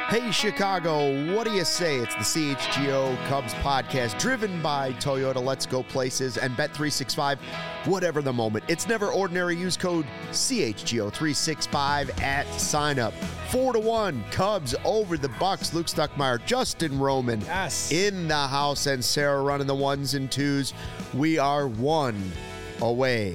Hey, Chicago, what do you say? It's the CHGO Cubs podcast driven by Toyota. Let's go places and Bet365, whatever the moment. It's never ordinary. Use code CHGO365 at sign up. 4-1 Cubs over the Bucks. Luke Stuckmeyer, Justin Roman in the house, and Sarah running the ones and twos. We are one away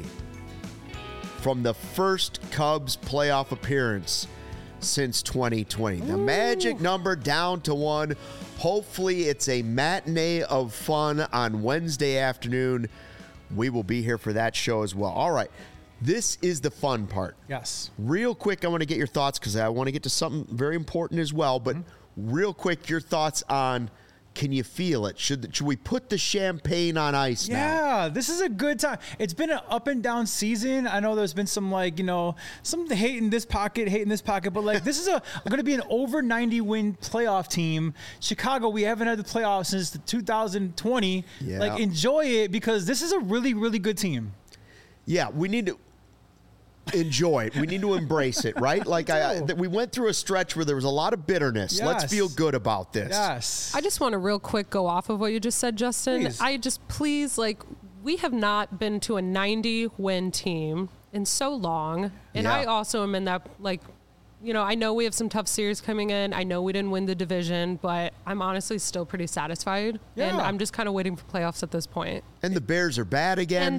from the first Cubs playoff appearance since 2020. The magic number down to 1. Hopefully it's a matinee of fun on Wednesday afternoon. We will be here for that show as well. All right. This is the fun part. Yes. Real quick, I want to get your thoughts because I want to get to something very important as well. But real quick, your thoughts on, can you feel it? Should we put the champagne on ice now? Yeah, this is a good time. It's been an up and down season. I know there's been some some hate in this pocket, but this is going to be an over 90 win playoff team. Chicago, we haven't had the playoffs since 2020. Yeah. Enjoy it because this is a really, really good team. Yeah, we need to enjoy it. We need to embrace it, right? We went through a stretch where there was a lot of bitterness. Yes. Let's feel good about this. Yes. I just want to real quick go off of what you just said, Justin. Please. We have not been to a 90-win team in so long. And Yeah. I also am in that, I know we have some tough series coming in. I know we didn't win the division, but I'm honestly still pretty satisfied. Yeah. And I'm just kind of waiting for playoffs at this point. And the Bears are bad again.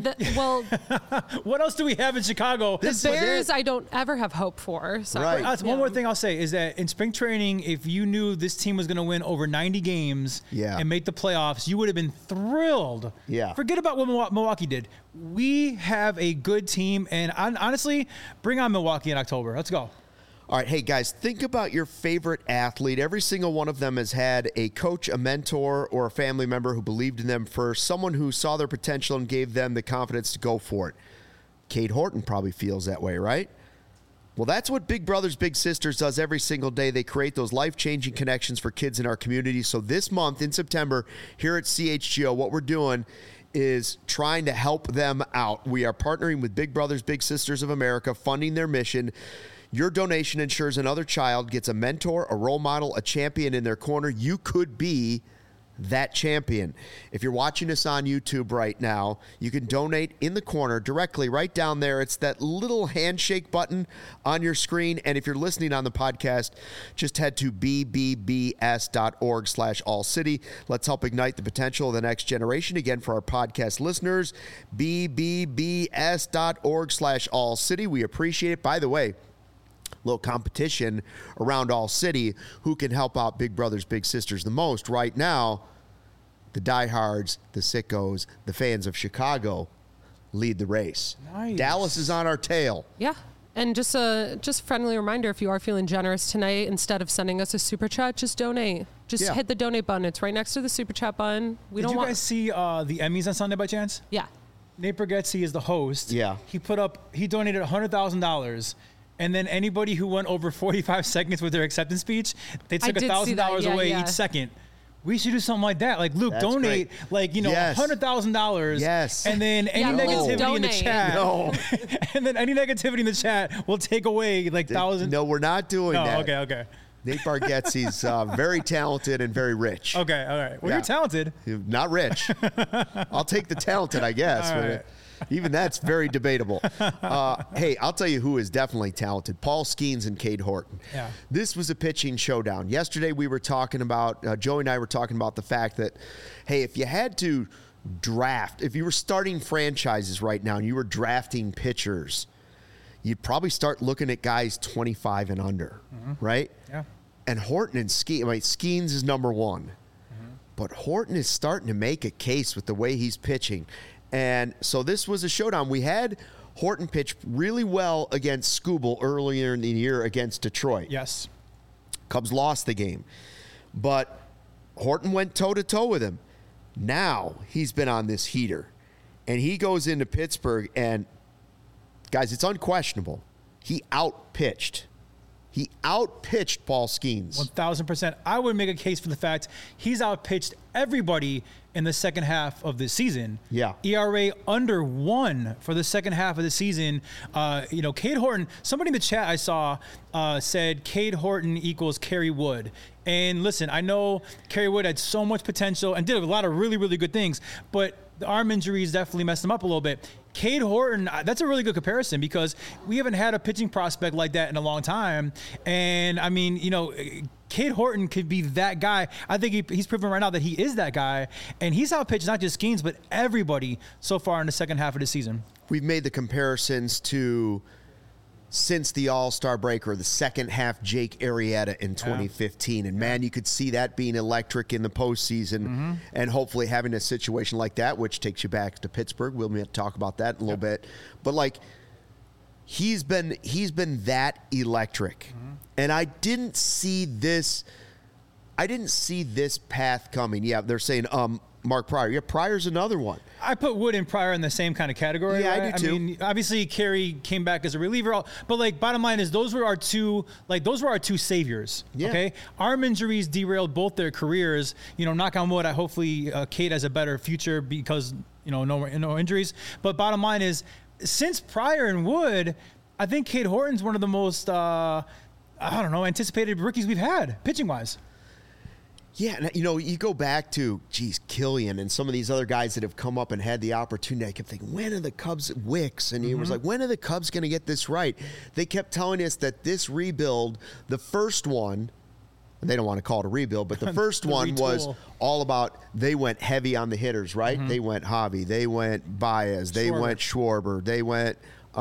What else do we have in Chicago? The Bears, I don't ever have hope for. So. Right. That's one more thing I'll say is that in spring training, if you knew this team was going to win over 90 games and make the playoffs, you would have been thrilled. Yeah. Forget about what Milwaukee did. We have a good team, and honestly, bring on Milwaukee in October. Let's go. All right, hey guys, think about your favorite athlete. Every single one of them has had a coach, a mentor, or a family member who believed in them first, someone who saw their potential and gave them the confidence to go for it. Cade Horton probably feels that way, right? Well, that's what Big Brothers Big Sisters does every single day. They create those life-changing connections for kids in our community. So this month in September here at CHGO, what we're doing is trying to help them out. We are partnering with Big Brothers Big Sisters of America, funding their mission. Your donation ensures another child gets a mentor, a role model, a champion in their corner. You could be that champion. If you're watching us on YouTube right now, you can donate in the corner directly right down there. It's that little handshake button on your screen. And if you're listening on the podcast, just head to bbbs.org/allcity. Let's help ignite the potential of the next generation. Again, for our podcast listeners, bbbs.org/allcity. We appreciate it. By the way, little competition around All City. Who can help out Big Brothers Big Sisters the most? Right now, the diehards, the sickos, the fans of Chicago lead the race. Nice. Dallas is on our tail. Yeah. And just a friendly reminder, if you are feeling generous tonight, instead of sending us a super chat, just donate. Just hit the donate button. It's right next to the super chat button. Did you guys see the Emmys on Sunday by chance? Yeah. Nate Bargatze is the host. Yeah. He donated $100,000. And then anybody who went over 45 seconds with their acceptance speech, they took $1,000 away each second. We should do something like that. Like, Luke, donate, $100,000. Yes. And then any negativity in the chat. No. And then any negativity in the chat will take away thousands. No, we're not doing that. Okay. Nate Bargatze's very talented and very rich. Okay, all right. Well, you're talented. Not rich. I'll take the talented, I guess. All right. Even that's very debatable. Hey, I'll tell you who is definitely talented. Paul Skeens and Cade Horton. Yeah. This was a pitching showdown. Yesterday we were talking about, Joey and I were talking about the fact that, hey, if you had to draft, if you were starting franchises right now and you were drafting pitchers, you'd probably start looking at guys 25 and under, right? Yeah. And Horton and Skeens is number one. But Horton is starting to make a case with the way he's pitching. And so this was a showdown. We had Horton pitch really well against Skubal earlier in the year against Detroit. Yes. Cubs lost the game. But Horton went toe-to-toe with him. Now he's been on this heater. And he goes into Pittsburgh, and, guys, it's unquestionable. He outpitched Paul Skeens. 1,000%. I would make a case for the fact he's outpitched everybody in the second half of the season. Yeah. ERA under 1 for the second half of the season. Cade Horton, somebody in the chat I saw said Cade Horton equals Kerry Wood. And listen, I know Kerry Wood had so much potential and did a lot of really, really good things, but the arm injuries definitely messed him up a little bit. Cade Horton, that's a really good comparison because we haven't had a pitching prospect like that in a long time. And I mean, Cade Horton could be that guy. I think he's proven right now that he is that guy. And he's outpitched not just Skeens, but everybody so far in the second half of the season. We've made the comparisons to since the All-Star break or the second half Jake Arrieta in 2015. And, man, you could see that being electric in the postseason and hopefully having a situation like that, which takes you back to Pittsburgh. We'll talk about that in a little bit. But, like, he's been that electric. And I didn't see this path coming. Yeah, they're saying Mark Pryor. Yeah, Pryor's another one. I put Wood and Pryor in the same kind of category. Yeah, right? I do too. I mean, obviously Kerry came back as a reliever, but like bottom line is those were our two saviors. Yeah. Okay, arm injuries derailed both their careers. Knock on wood. Hopefully Cade has a better future because no injuries. But bottom line is, since Pryor and Wood, I think Cade Horton's one of the most anticipated rookies we've had pitching wise. Yeah, and you go back to, Killian and some of these other guys that have come up and had the opportunity. I kept thinking, when are the Cubs, Wicks? And he was like, when are the Cubs going to get this right? They kept telling us that this rebuild, the first one, they don't want to call it a rebuild, but the first one was all about, they went heavy on the hitters, right? They went Javi, they went Baez, they went Schwarber, they went,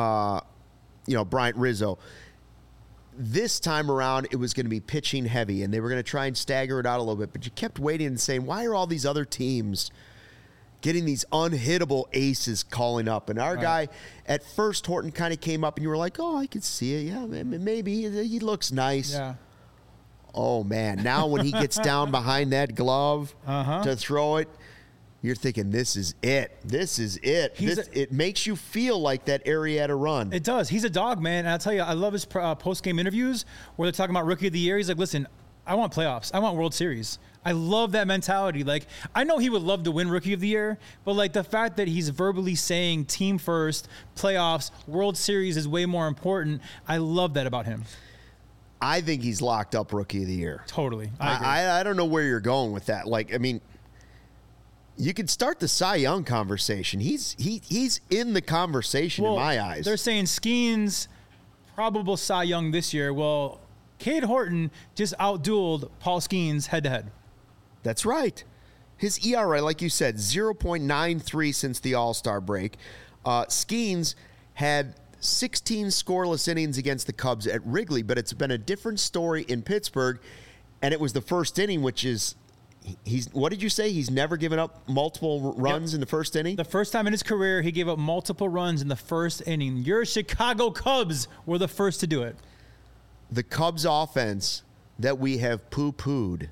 Bryant Rizzo. This time around, it was going to be pitching heavy, and they were going to try and stagger it out a little bit. But you kept waiting and saying, why are all these other teams getting these unhittable aces calling up? And our guy, at first, Horton kind of came up, and you were like, oh, I could see it. Yeah, maybe. He looks nice. Yeah. Oh, man. Now when he gets down behind that glove to throw it, you're thinking, this is it. This is it. It makes you feel like that Arrieta run. It does. He's a dog, man. And I'll tell you, I love his post-game interviews where they're talking about Rookie of the Year. He's like, listen, I want playoffs. I want World Series. I love that mentality. Like, I know he would love to win Rookie of the Year, but, like, the fact that he's verbally saying team first, playoffs, World Series is way more important, I love that about him. I think he's locked up Rookie of the Year. Totally. I don't know where you're going with that. Like, I mean, you could start the Cy Young conversation. He's in the conversation in my eyes. They're saying Skeens probable Cy Young this year. Well, Cade Horton just outdueled Paul Skeens head-to-head. That's right. His ERA, like you said, 0.93 since the All-Star break. Skeens had 16 scoreless innings against the Cubs at Wrigley, but it's been a different story in Pittsburgh, and it was the first inning, which is... what did you say? He's never given up multiple runs in the first inning? The first time in his career, he gave up multiple runs in the first inning. Your Chicago Cubs were the first to do it. The Cubs offense that we have poo-pooed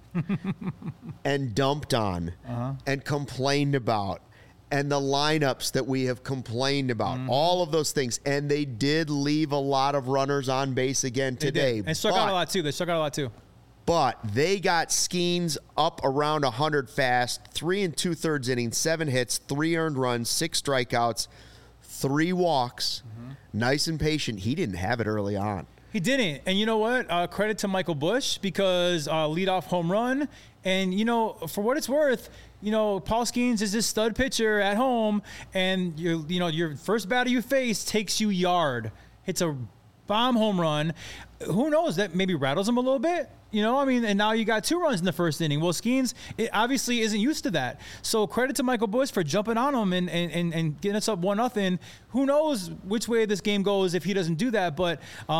and dumped on and complained about, and the lineups that we have complained about, all of those things. And they did leave a lot of runners on base again today. And struck out a lot, too. But they got Skeens up around 100 fast, 3 2/3 innings, 7 hits, 3 earned runs, 6 strikeouts, 3 walks. Nice and patient. He didn't have it early on. He didn't. And you know what? Credit to Michael Busch because leadoff home run. And, for what it's worth, Paul Skeens is this stud pitcher at home, and your first batter you face takes you yard. Hits a bomb home run. Who knows? That maybe rattles him a little bit. And now you got 2 runs in the first inning. Well, Skeens obviously isn't used to that. So credit to Michael Busch for jumping on him and getting us up 1-0. Who knows which way this game goes if he doesn't do that. But,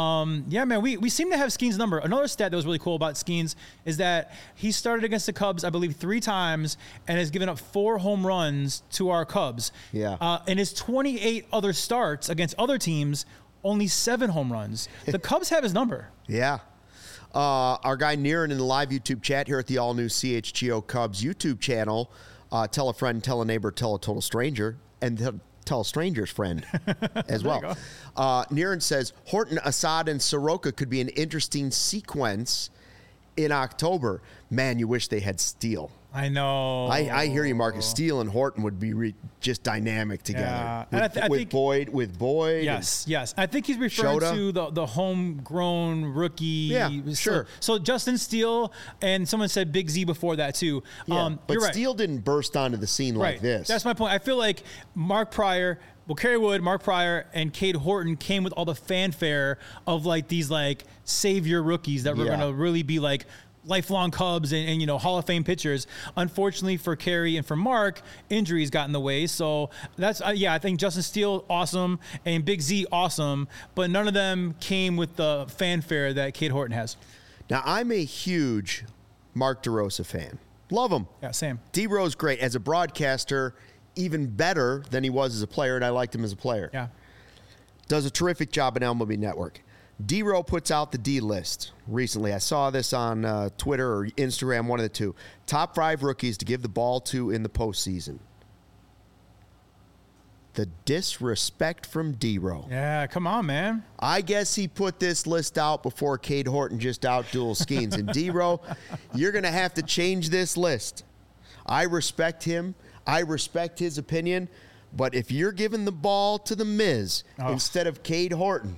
we seem to have Skeens' number. Another stat that was really cool about Skeens is that he started against the Cubs, I believe, 3 times and has given up 4 home runs to our Cubs. Yeah. In his 28 other starts against other teams, only 7 home runs. The Cubs have his number. Yeah. Our guy Niren in the live YouTube chat here at the all-new CHGO Cubs YouTube channel. Tell a friend, tell a neighbor, tell a total stranger, and tell a stranger's friend as well. Niren says, Horton, Assad, and Soroka could be an interesting sequence in October. Man, you wish they had Steele. I know. I hear you, Marcus. Steele and Horton would be just dynamic together. Yeah. With Boyd. Yes. I think he's referring to the homegrown rookie. Yeah, sure. So Justin Steele, and someone said Big Z before that too. Yeah, but you're right. Steele didn't burst onto the scene like this. That's my point. I feel like Mark Pryor, Kerry Wood, Mark Pryor, and Cade Horton came with all the fanfare of like these like savior rookies that were going to really be like lifelong Cubs and Hall of Fame pitchers. Unfortunately for Kerry and for Mark, injuries got in the way. So that's I think Justin Steele awesome and Big Z awesome, but none of them came with the fanfare that Cade Horton has. Now I'm a huge Mark DeRosa fan. Love him. Yeah, same. D-Rose great as a broadcaster, even better than he was as a player, and I liked him as a player. Yeah. Does a terrific job at MLB Network. D-Row puts out the D-list recently. I saw this on Twitter or Instagram, one of the two. Top 5 rookies to give the ball to in the postseason. The disrespect from D-Row. Yeah, come on, man. I guess he put this list out before Cade Horton just out-duel Skeens. And D-Row, you're going to have to change this list. I respect him. I respect his opinion. But if you're giving the ball to the Miz instead of Cade Horton,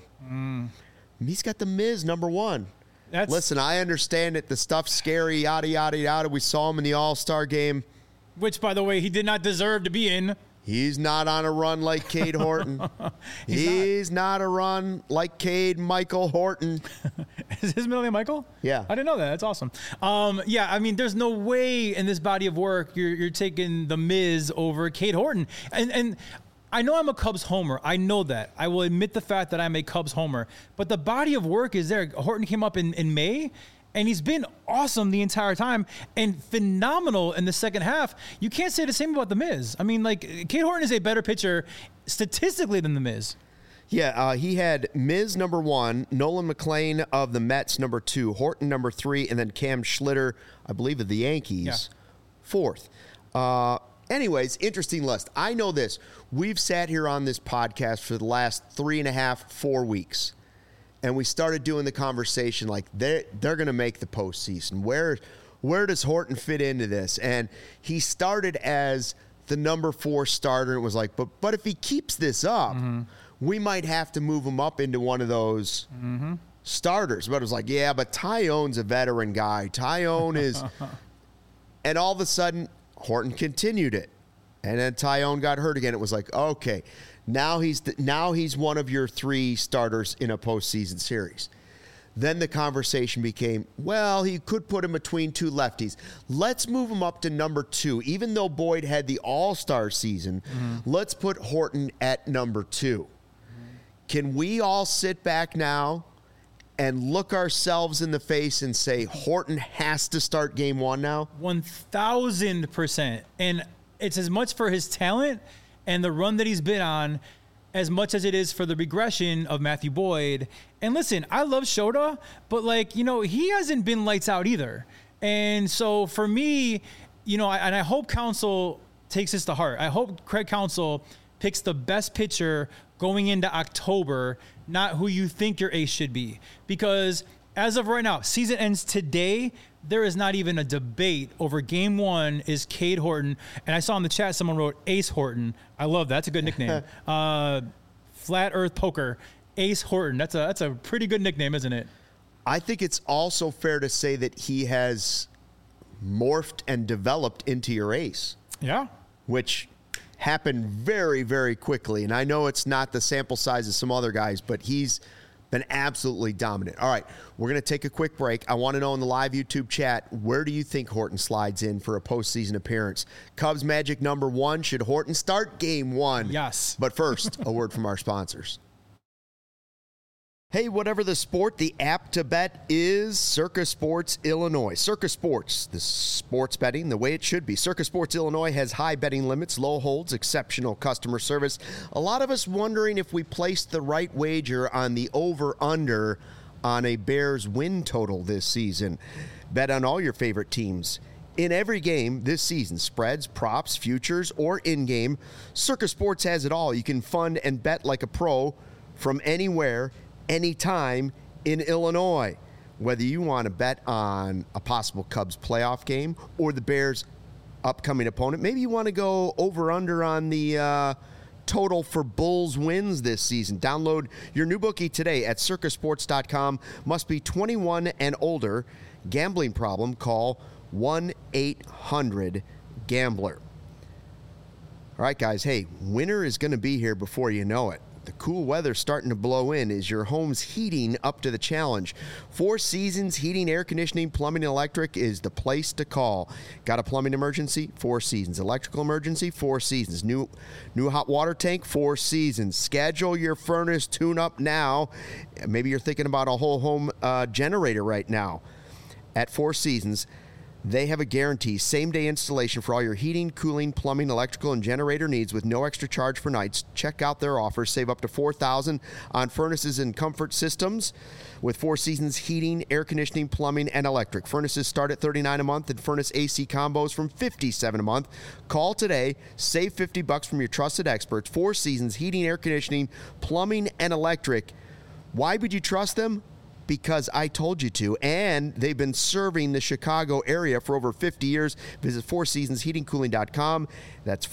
he's got the Miz number 1. Listen, I understand it. The stuff's scary, yada, yada, yada. We saw him in the All-Star game. Which, by the way, he did not deserve to be in. He's not on a run like Cade Horton. He's not a run like Cade Michael Horton. Is his middle name Michael? Yeah. I didn't know that. That's awesome. Yeah, I mean, there's no way in this body of work you're taking the Miz over Cade Horton. And I know I'm a Cubs homer. I know that. I will admit the fact that I'm a Cubs homer. But the body of work is there. Horton came up in May, and he's been awesome the entire time and phenomenal in the second half. You can't say the same about the Miz. I mean, like, Cade Horton is a better pitcher statistically than the Miz. Yeah, he had Miz number 1, Nolan McLean of the Mets number 2, Horton number 3, and then Cam Schlitter, I believe, of the Yankees, 4th. Anyways, interesting list. I know this. We've sat here on this podcast for the last 3.5, 4 weeks, and we started doing the conversation like they're going to make the postseason. Where does Horton fit into this? And he started as the number 4 starter. And it was like, but if he keeps this up, we might have to move him up into one of those starters. But it was like, yeah, but Tyone's a veteran guy. Tyone is, and all of a sudden Horton continued it, and then Tyone got hurt again. It was like, okay. Now he's one of your 3 starters in a postseason series. Then the conversation became, well, he could put him between 2 lefties. Let's move him up to number 2. Even though Boyd had the all-star season, let's put Horton at number 2. Can we all sit back now and look ourselves in the face and say Horton has to start game 1 now? 1,000%. And it's as much for his talent and the run that he's been on as much as it is for the regression of Matthew Boyd. And listen, I love Shota, but he hasn't been lights out either. And so for me, I hope Counsell takes this to heart. I hope Craig Counsell picks the best pitcher going into October, not who you think your ace should be. Because as of right now, season ends today. There is not even a debate over game 1 is Cade Horton. And I saw in the chat someone wrote Ace Horton. I love that. That's a good nickname. Flat Earth Poker, Ace Horton. That's a pretty good nickname, isn't it? I think it's also fair to say that he has morphed and developed into your ace. Yeah. Which happened very, very quickly. And I know it's not the sample size of some other guys, but he's been absolutely dominant. All right, we're going to take a quick break. I want to know in the live YouTube chat, where do you think Horton slides in for a postseason appearance? Cubs Magic number 1, should Horton start game 1? Yes. But first, a word from our sponsors. Hey, whatever the sport, the app to bet is Circa Sports Illinois. Circa Sports, the sports betting the way it should be. Circa Sports Illinois has high betting limits, low holds, exceptional customer service. A lot of us wondering if we placed the right wager on the over-under on a Bears win total this season. Bet on all your favorite teams in every game this season. Spreads, props, futures, or in-game. Circa Sports has it all. You can fund and bet like a pro from anywhere, anytime in Illinois. Whether you want to bet on a possible Cubs playoff game or the Bears upcoming opponent. Maybe you want to go over-under on the total for Bulls wins this season. Download your new bookie today at circasports.com. Must be 21 and older. Gambling problem? Call 1-800-GAMBLER. All right, guys. Hey, winter is going to be here before you know it. The cool weather starting to blow in. Is your home's heating up to the challenge? Four Seasons Heating, Air Conditioning, Plumbing, and Electric is the place to call. Got a plumbing emergency? Four Seasons. Electrical emergency? Four Seasons. New hot water tank? Four Seasons. Schedule your furnace tune-up now. Maybe you're thinking about a whole home generator right now. At Four Seasons, they have a guarantee, same-day installation for all your heating, cooling, plumbing, electrical, and generator needs with no extra charge for nights. Check out their offers. Save up to $4,000 on furnaces and comfort systems with Four Seasons Heating, Air Conditioning, Plumbing, and Electric. Furnaces start at $39 a month and furnace AC combos from $57 a month. Call today. Save $50 from your trusted experts. Four Seasons Heating, Air Conditioning, Plumbing, and Electric. Why would you trust them? Because I told you to, and they've been serving the Chicago area for over 50 years. Visit fourseasonsheatingcooling.com. That's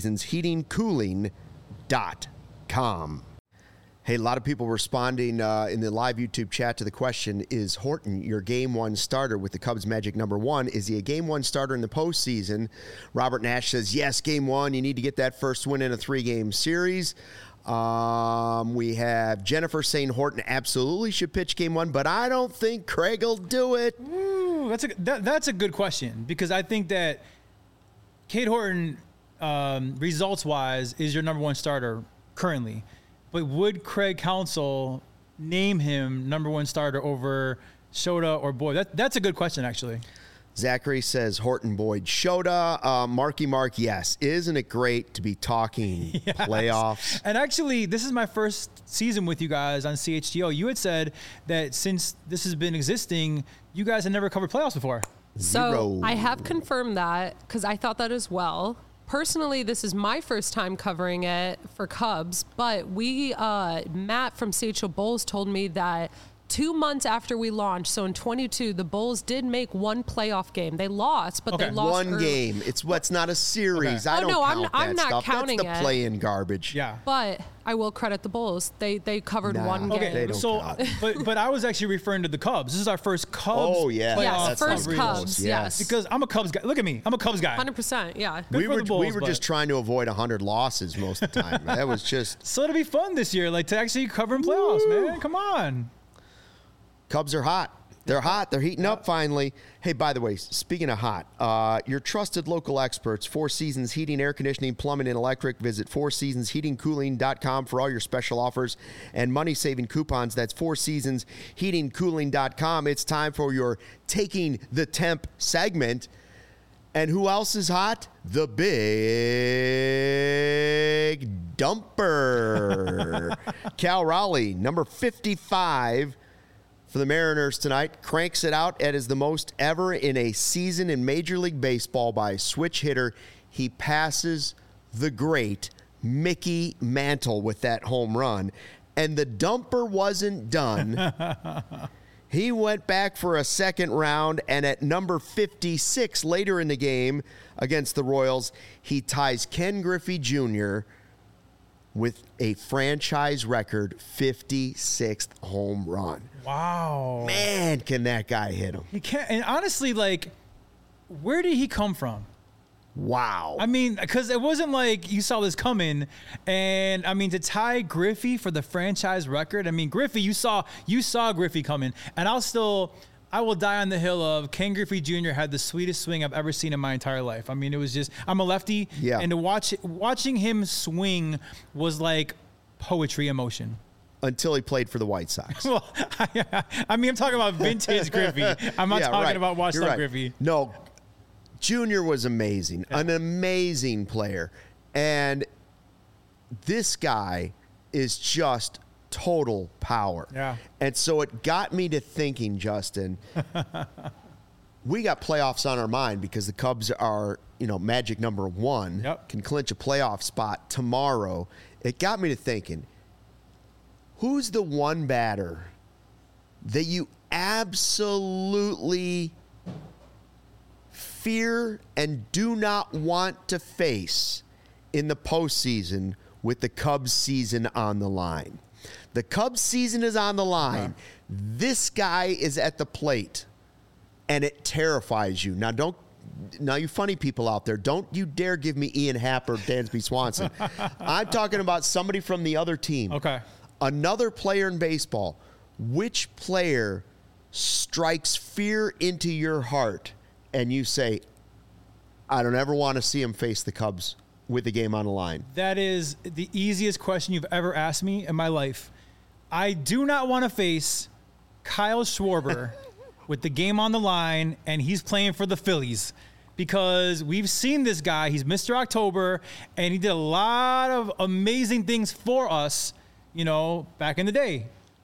fourseasonsheatingcooling.com. Hey, a lot of people responding in the live YouTube chat to the question, is Horton your Game 1 starter with the Cubs Magic #1? Is he a Game 1 starter in the postseason? Robert Nash says, yes, Game 1. You need to get that first win in a 3-game series. We have Jennifer saying Horton absolutely should pitch Game 1, but I don't think Craig will do it. Ooh, that's a good question, because I think that Cade Horton, results-wise, is your #1 starter currently. But would Craig Counsell name him #1 starter over Shota or Boyd? That's a good question, actually. Zachary says Horton, Boyd, Shota. Marky Mark, yes. Isn't it great to be talking playoffs? And actually, this is my first season with you guys on CHGO. You had said that since this has been existing, you guys had never covered playoffs before. So I have confirmed that because I thought that as well. Personally, this is my first time covering it for Cubs, but Matt from CHO Bulls told me that 2 months after we launched, so in 22, the Bulls did make one playoff game. They lost, but they lost one early. game. It's not a series. Okay. I don't count I'm that not stuff. counting That's the play-in garbage. Yeah. But I will credit the Bulls. They covered one game. They don't count. but I was actually referring to the Cubs. This is our first Cubs. Oh yeah, yes, first Cubs. Yes, because I'm a Cubs guy. Look at me. I'm a Cubs guy. 100%. Yeah. We were just trying to avoid 100 losses most of the time. That was just so it'll be fun this year, like to actually cover in playoffs, man. Come on. Cubs are hot. They're hot. They're heating up finally. Hey, by the way, speaking of hot, your trusted local experts, Four Seasons Heating, Air Conditioning, Plumbing, and Electric. Visit fourseasonsheatingcooling.com for all your special offers and money-saving coupons. That's fourseasonsheatingcooling.com. It's time for your Taking the Temp segment. And who else is hot? The Big Dumper. Cal Raleigh, number 55. For the Mariners tonight, cranks it out as the most ever in a season in Major League Baseball by a switch hitter. He passes the great Mickey Mantle with that home run. And the Dumper wasn't done. He went back for a second round, and at number 56 later in the game against the Royals, he ties Ken Griffey Jr. with a franchise record 56th home run. Wow. Man, can that guy hit him. He can't. And honestly, like, where did he come from? Wow. I mean, because it wasn't like you saw this coming. And, I mean, to tie Griffey for the franchise record, I mean, Griffey, you saw Griffey coming. And I will die on the hill of Ken Griffey Jr. had the sweetest swing I've ever seen in my entire life. I mean, it was just, I'm a lefty. Yeah. And to watching him swing was like poetry emotion. Until he played for the White Sox. Well, I mean, I'm talking about vintage Griffey. I'm not talking about washed up Griffey. No, Junior was amazing, an amazing player. And this guy is just total power. Yeah. And so it got me to thinking, Justin, we got playoffs on our mind because the Cubs are, Magic #1, Yep. can clinch a playoff spot tomorrow. It got me to thinking, who's the one batter that you absolutely fear and do not want to face in the postseason with the Cubs season on the line? The Cubs season is on the line. This guy is at the plate, and it terrifies you. Now, you funny people out there, don't you dare give me Ian Happ or Dansby Swanson. I'm talking about somebody from the other team. Okay. Another player in baseball. Which player strikes fear into your heart and you say, I don't ever want to see him face the Cubs with the game on the line? That is the easiest question you've ever asked me in my life. I do not want to face Kyle Schwarber with the game on the line, and he's playing for the Phillies, because we've seen this guy. He's Mr. October, and he did a lot of amazing things for us, back in the day.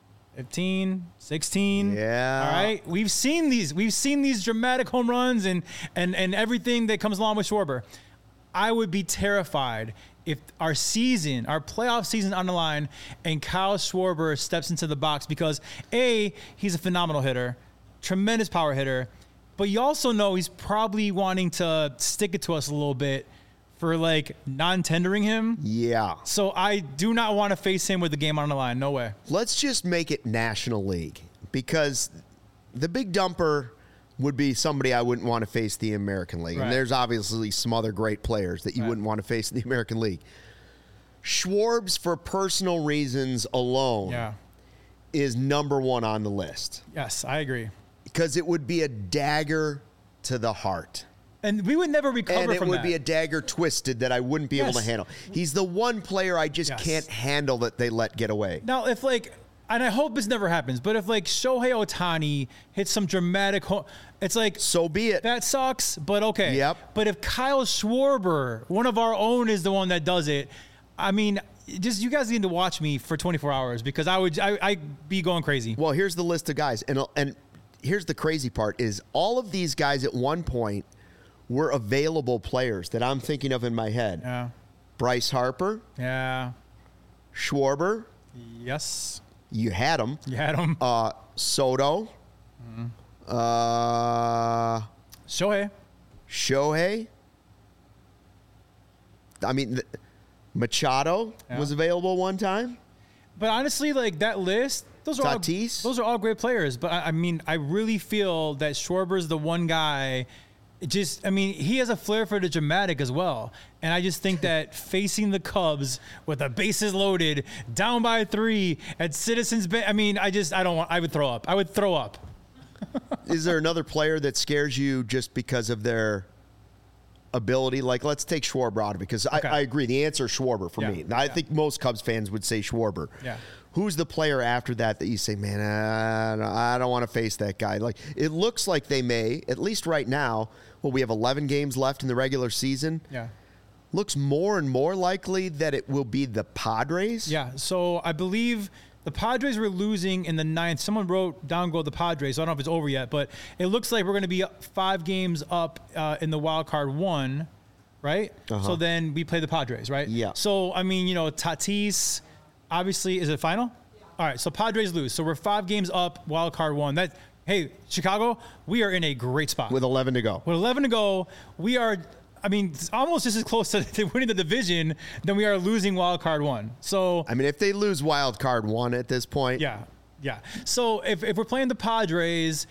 15, 16. Yeah. All right. We've seen these dramatic home runs and everything that comes along with Schwarber. I would be terrified if our playoff season on the line and Kyle Schwarber steps into the box, because he's a phenomenal hitter, tremendous power hitter, but you also know he's probably wanting to stick it to us a little bit for non-tendering him. Yeah. So I do not want to face him with the game on the line. No way. Let's just make it National League, because the big dumper would be somebody I wouldn't want to face the American League. Right. And there's obviously some other great players that you wouldn't want to face in the American League. Schwarbs, for personal reasons alone, is number one on the list. Yes, I agree. Because it would be a dagger to the heart. And we would never recover from that. And it would be a dagger twisted that I wouldn't be able to handle. He's the one player I just can't handle that they let get away. Now, if and I hope this never happens, but if Shohei Ohtani hits some dramatic it's so be it. That sucks, but okay. Yep. But if Kyle Schwarber, one of our own, is the one that does it, I mean, just you guys need to watch me for 24 hours, because I'd be going crazy. Well, here's the list of guys, and here's the crazy part is all of these guys at one point were available players that I'm thinking of in my head. Yeah. Bryce Harper. Yeah. Schwarber. Yes. You had him. Mm-hmm. Soto. Shohei. I mean, Machado was available one time. But honestly, that list, those are all great players. But I mean, I really feel that Schwarber's the one guy. He has a flair for the dramatic as well. And I just think that facing the Cubs with the bases loaded, down by 3 at Citizens Bank, I would throw up. I would throw up. Is there another player that scares you just because of their ability? Let's take Schwarber out of it, because I agree. The answer is Schwarber for me. I think most Cubs fans would say Schwarber. Yeah. Who's the player after that you say, man, I don't want to face that guy? It looks like they may, at least right now. Well, we have 11 games left in the regular season. Yeah. Looks more and more likely that it will be the Padres. Yeah. So I believe the Padres were losing in the 9th. Someone wrote down go the Padres. So I don't know if it's over yet, but it looks like we're going to be 5 games up in the wild card 1, right? So then we play the Padres, right? Yeah. So, Tatis, obviously, is it final? Yeah. All right. So Padres lose. So we're 5 games up, wild card 1. Hey, Chicago, we are in a great spot. With 11 to go. With 11 to go, we are, almost just as close to winning the division than we are losing wild card 1. So, if they lose wild card 1 at this point. Yeah. So if we're playing the Padres,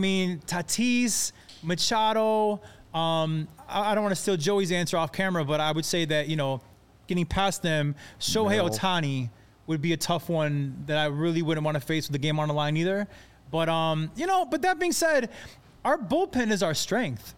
Tatis, Machado, I don't want to steal Joey's answer off camera, but I would say that, getting past them, Shohei Ohtani would be a tough one that I really wouldn't want to face with the game on the line either. But, but that being said, our bullpen is our strength.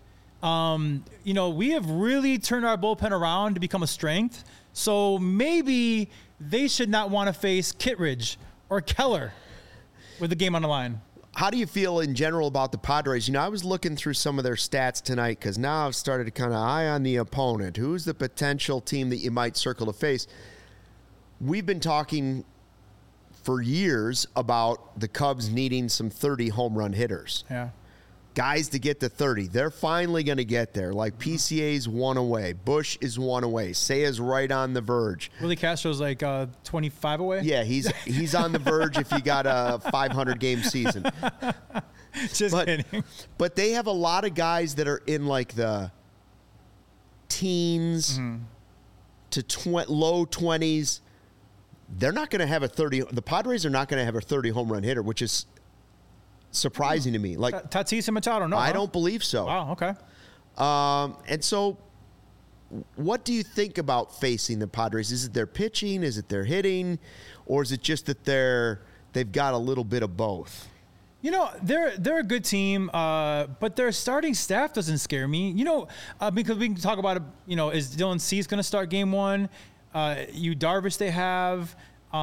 We have really turned our bullpen around to become a strength. So maybe they should not want to face Kittredge or Keller with the game on the line. How do you feel in general about the Padres? I was looking through some of their stats tonight, because now I've started to kind of eye on the opponent. Who's the potential team that you might circle to face? We've been talking for years about the Cubs needing some 30 home run hitters. Yeah. Guys to get to 30. They're finally going to get there. PCA's 1 away. Bush is 1 away. Sea's right on the verge. Willie Castro's 25 away? Yeah, he's on the verge if you got a 500-game season. Just but, kidding. But they have a lot of guys that are in like the teens to low 20s. They're not going to have a 30. The Padres are not going to have a 30 home run hitter, which is surprising to me. Like Tatis and Machado, no. I don't believe so. Wow, okay. And so what do you think about facing the Padres? Is it their pitching? Is it their hitting? Or is it just that they've got a little bit of both? You know, they're a good team, but their starting staff doesn't scare me. You know, because we can talk about it. You know, is Dylan Cease going to start Game 1? Yu Darvish they have.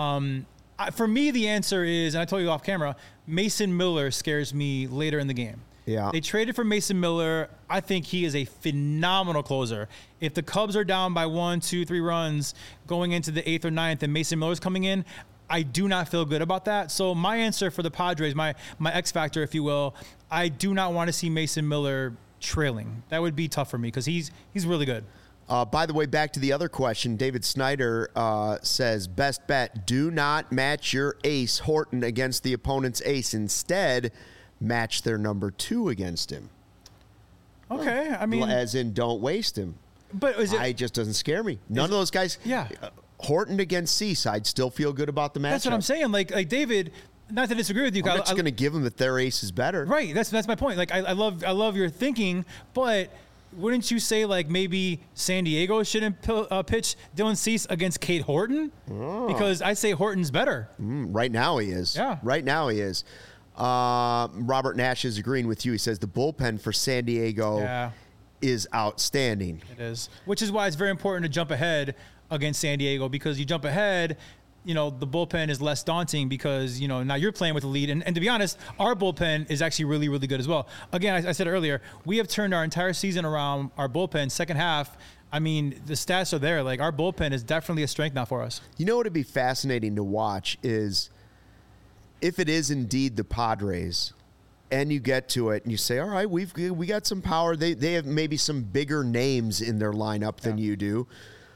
For me, the answer is, and I told you off camera, Mason Miller scares me later in the game. Yeah. They traded for Mason Miller. I think he is a phenomenal closer. If the Cubs are down by 1, 2, 3 runs going into the 8th or 9th and Mason Miller's coming in, I do not feel good about that. So my answer for the Padres, my X factor, if you will, I do not want to see Mason Miller trailing. That would be tough for me because he's really good. By the way, back to the other question, David Snyder says, best bet, do not match your ace, Horton, against the opponent's ace. Instead, match their number 2 against him. Okay, I mean... As in, don't waste him. But is it... It just doesn't scare me. None of those guys... Yeah. Horton against Cease, I'd still feel good about the matchup. That's what I'm saying. Like David... Not to disagree with you, I'm not just going to give them that their ace is better. Right, that's my point. Like I love your thinking, but wouldn't you say like maybe San Diego shouldn't pitch Dylan Cease against Cade Horton? Oh. Because I say Horton's better. Right now he is. Yeah. Right now he is. Robert Nash is agreeing with you. He says the bullpen for San Diego is outstanding. It is. Which is why it's very important to jump ahead against San Diego, because you jump ahead, you know, the bullpen is less daunting because, you know, now you're playing with the lead. And to be honest, our bullpen is actually really, really good as well. Again, I said earlier, we have turned our entire season around. Our bullpen, second half, I mean, the stats are there. Like, our bullpen is definitely a strength now for us. You know what would be fascinating to watch is if it is indeed the Padres and you get to it and you say, all right, we got some power. They have maybe some bigger names in their lineup than you do.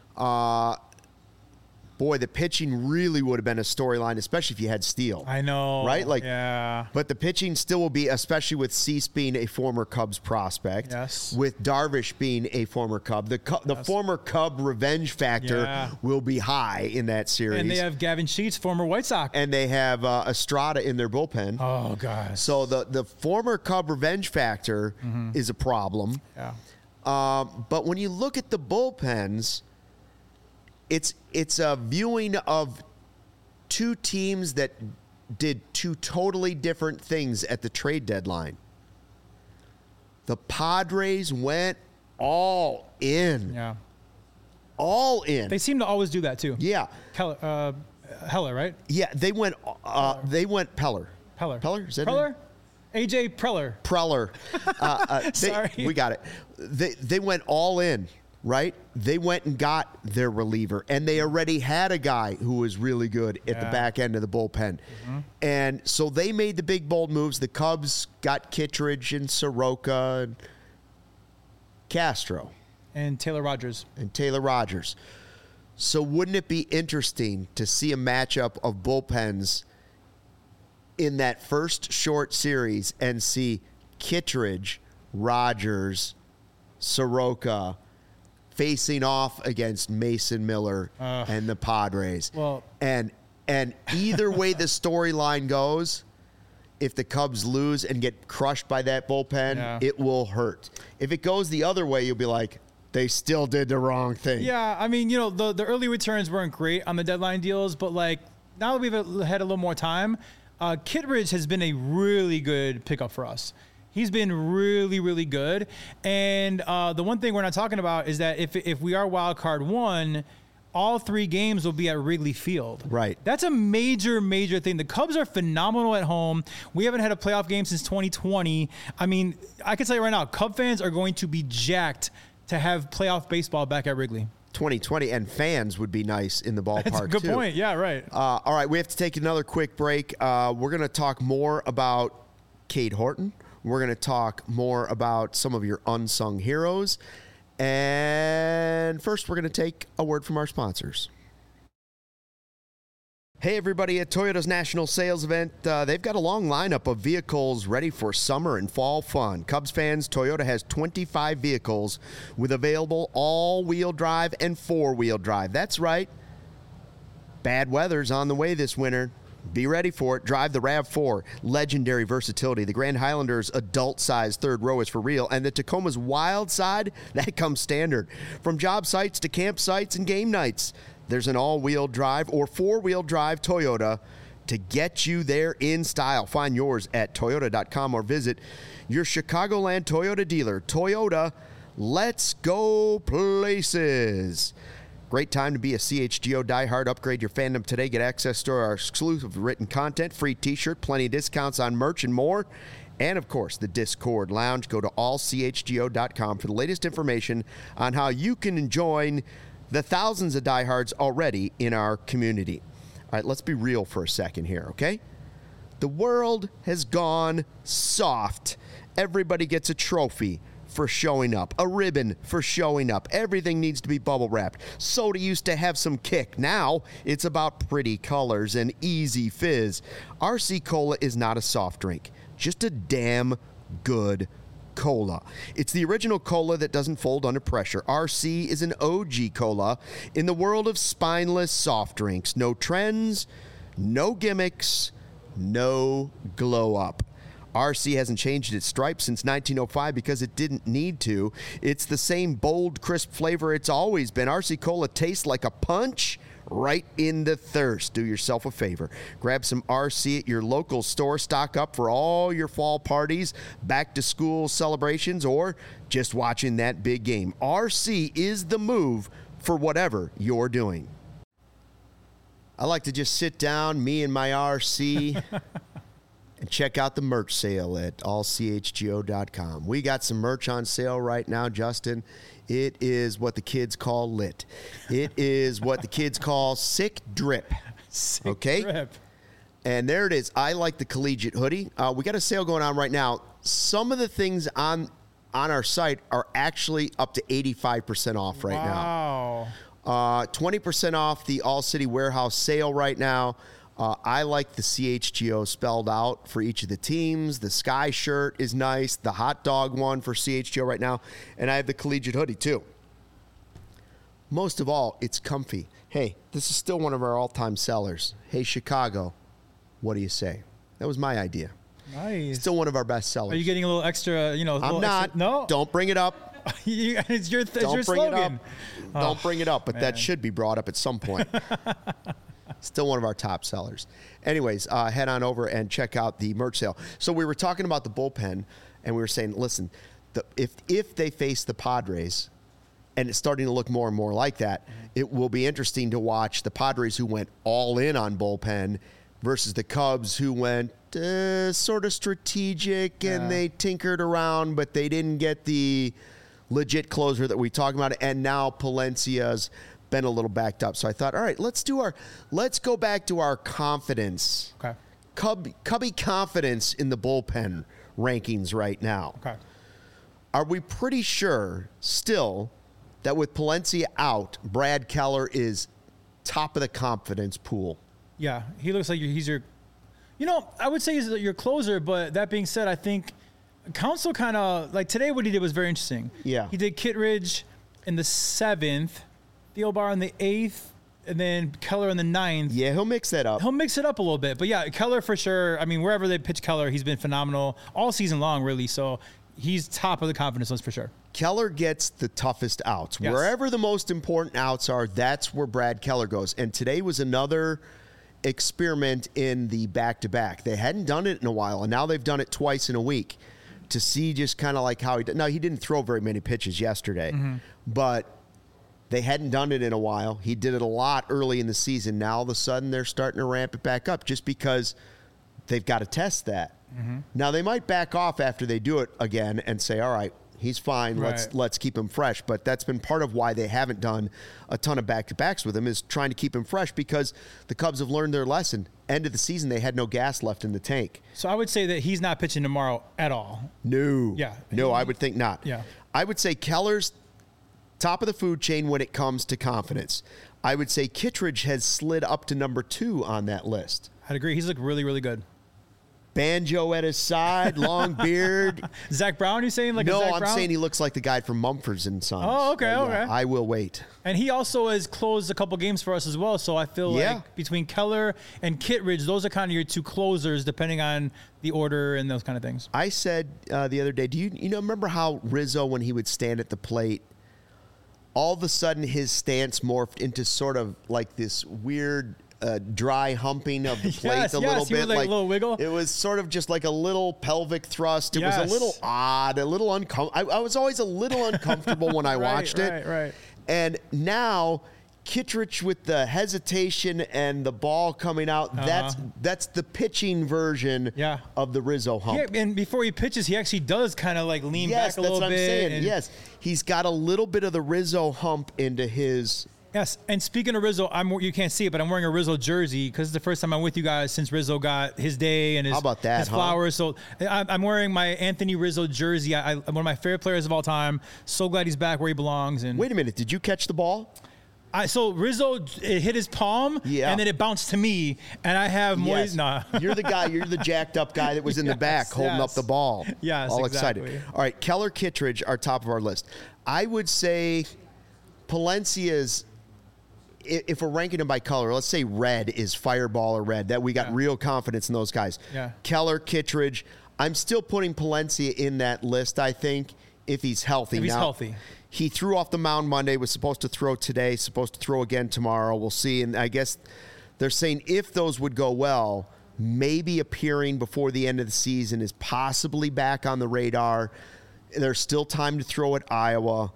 Boy, the pitching really would have been a storyline, especially if you had Steele. I know. Right? Like, yeah. But the pitching still will be, especially with Cease being a former Cubs prospect. Yes. With Darvish being a former Cub. The former Cub revenge factor will be high in that series. And they have Gavin Sheets, former White Sox. And they have Estrada in their bullpen. Oh, gosh. So the former Cub revenge factor is a problem. Yeah. But when you look at the bullpens, it's a viewing of two teams that did two totally different things at the trade deadline. The Padres went all in. Yeah. All in. They seem to always do that too. Yeah. Heller, right? Yeah, they went Peller. Peller. Is that Preller? AJ Preller. Sorry. We got it. They went all in. Right? They went and got their reliever, and they already had a guy who was really good at the back end of the bullpen. And so they made the big, bold moves. The Cubs got Kittredge and Soroka and Castro. And Taylor Rogers. So wouldn't it be interesting to see a matchup of bullpens in that first short series and see Kittredge, Rogers, Soroka facing off against Mason Miller and the Padres? Well, and either way the storyline goes, if the Cubs lose and get crushed by that bullpen, it will hurt. If it goes the other way, you'll be like, they still did the wrong thing. Yeah, I mean, you know, the early returns weren't great on the deadline deals, but like now that we've had a little more time, Kittredge has been a really good pickup for us. He's been really, really good. And the one thing we're not talking about is that if we are wild card 1, all 3 games will be at Wrigley Field. Right. That's a major, major thing. The Cubs are phenomenal at home. We haven't had a playoff game since 2020. I mean, I can tell you right now, Cub fans are going to be jacked to have playoff baseball back at Wrigley. 2020, and fans would be nice in the ballpark, That's a good point. Yeah, right. All right, we have to take another quick break. We're going to talk more about Cade Horton. We're going to talk more about some of your unsung heroes. And first, we're going to take a word from our sponsors. Hey, everybody, at Toyota's National Sales Event, they've got a long lineup of vehicles ready for summer and fall fun. Cubs fans, Toyota has 25 vehicles with available all-wheel drive and four-wheel drive. That's right. Bad weather's on the way this winter. Be ready for it. Drive the RAV4, legendary versatility. The Grand Highlander's adult-sized third row is for real, and the Tacoma's wild side, that comes standard. From job sites to campsites and game nights, there's an all-wheel drive or four-wheel drive Toyota to get you there in style. Find yours at Toyota.com or visit your Chicagoland Toyota dealer. Toyota, let's go places. Great time to be a CHGO diehard. Upgrade your fandom today. Get access to our exclusive written content, free t-shirt, plenty of discounts on merch and more. And, of course, the Discord Lounge. Go to allchgo.com for the latest information on how you can join the thousands of diehards already in our community. All right, let's be real for a second here, okay? The world has gone soft. Everybody gets a trophy for showing up, a ribbon for showing up. Everything needs to be bubble wrapped. Soda used to have some kick. Now it's about pretty colors and easy fizz. RC Cola is not a soft drink, just a damn good cola. It's the original cola that doesn't fold under pressure. RC is an OG cola in the world of spineless soft drinks. No trends, no gimmicks, no glow up. RC hasn't changed its stripes since 1905 because it didn't need to. It's the same bold, crisp flavor it's always been. RC Cola tastes like a punch right in the thirst. Do yourself a favor. Grab some RC at your local store. Stock up for all your fall parties, back-to-school celebrations, or just watching that big game. RC is the move for whatever you're doing. I like to just sit down, me and my RC, and check out the merch sale at allchgo.com. We got some merch on sale right now, Justin. It is what the kids call lit. It is what the kids call sick drip. Sick drip. And there it is. I like the collegiate hoodie. We got a sale going on right now. Some of the things on our site are actually up to 85% off right now. Wow. 20% off the All City Warehouse sale right now. I like the CHGO spelled out for each of the teams. The Sky shirt is nice. The hot dog one for CHGO right now. And I have the collegiate hoodie, too. Most of all, it's comfy. Hey, this is still one of our all-time sellers. Hey, Chicago, what do you say? That was my idea. Nice. Still one of our best sellers. Are you getting a little extra, I'm not. Extra? No? Don't bring it up. It's your Don't bring slogan. it up. Don't bring it up, but that should be brought up at some point. Still one of our top sellers. Anyways, head on over and check out the merch sale. So we were talking about the bullpen, and we were saying, listen, if they face the Padres, and it's starting to look more and more like that, it will be interesting to watch the Padres who went all in on bullpen versus the Cubs who went sort of strategic, and they tinkered around, but they didn't get the legit closer that we talked about. And now Palencia's been a little backed up. So I thought, all right, let's go back to our confidence. Okay. Cubby confidence in the bullpen rankings right now. Okay. Are we pretty sure still that with Palencia out, Brad Keller is top of the confidence pool? Yeah, he looks like he's your, I would say he's your closer, but that being said, I think Counsell kind of, like today what he did was very interesting. Yeah. He did Kittredge in the 7th, Thielbar in the 8th, and then Keller in the 9th. Yeah, he'll mix that up. He'll mix it up a little bit. But yeah, Keller for sure. I mean, wherever they pitch Keller, he's been phenomenal all season long, really. So he's top of the confidence list for sure. Keller gets the toughest outs. Yes. Wherever the most important outs are, that's where Brad Keller goes. And today was another experiment in the back-to-back. They hadn't done it in a while, and now they've done it twice in a week to see just kind of like how he did. Now, he didn't throw very many pitches yesterday, but they hadn't done it in a while. He did it a lot early in the season. Now, all of a sudden, they're starting to ramp it back up just because they've got to test that. Now, they might back off after they do it again and say, all right, he's fine. Right. Let's keep him fresh. But that's been part of why they haven't done a ton of back-to-backs with him, is trying to keep him fresh because the Cubs have learned their lesson. End of the season, they had no gas left in the tank. So I would say that he's not pitching tomorrow at all. No. Yeah. No, I would think not. Yeah. I would say Keller's top of the food chain when it comes to confidence. I would say Kittredge has slid up to number 2 on that list. I'd agree. He's looked really, really good. Banjo at his side, long beard. Zach Brown, you saying like no, a Zach I'm Brown? saying he looks like the guy from Mumford & Sons. Oh, okay, But, okay. I will wait. And he also has closed a couple games for us as well. So I feel like between Keller and Kittredge, those are kind of your 2 closers, depending on the order and those kind of things. I said the other day, do you remember how Rizzo, when he would stand at the plate, all of a sudden his stance morphed into sort of like this weird dry humping of the plate Yes, a little he would, bit. like, a little wiggle. It was sort of just like a little pelvic thrust. It was Yes. a little odd, a little uncomfortable. I was always a little uncomfortable when I watched it. Right. And now Kittredge with the hesitation and the ball coming out, that's the pitching version of the Rizzo hump. Yeah, and before he pitches, he actually does kind of like lean back a little bit. Yes, that's what I'm saying. Yes, he's got a little bit of the Rizzo hump into his. Yes, and speaking of Rizzo, you can't see it, but I'm wearing a Rizzo jersey because it's the first time I'm with you guys since Rizzo got his day and his, How about that, his flowers. So I'm wearing my Anthony Rizzo jersey. I'm one of my favorite players of all time. So glad he's back where he belongs. And Wait a minute, did you catch the ball? So Rizzo, it hit his palm, and then it bounced to me, and I have Yes. Nah. You're the guy. You're the jacked up guy that was in the back holding up the ball. Yes, all exactly. excited. All right, Keller, Kittredge are top of our list. I would say Palencia's. If we're ranking them by color, let's say red is Fireball or red. That we got real confidence in those guys. Yeah. Keller, Kittredge. I'm still putting Palencia in that list. I think if he's healthy. If he's now, healthy. He threw off the mound Monday. Was supposed to throw today. Supposed to throw again tomorrow. We'll see. And I guess they're saying if those would go well, maybe appearing before the end of the season is possibly back on the radar. There's still time to throw at Iowa.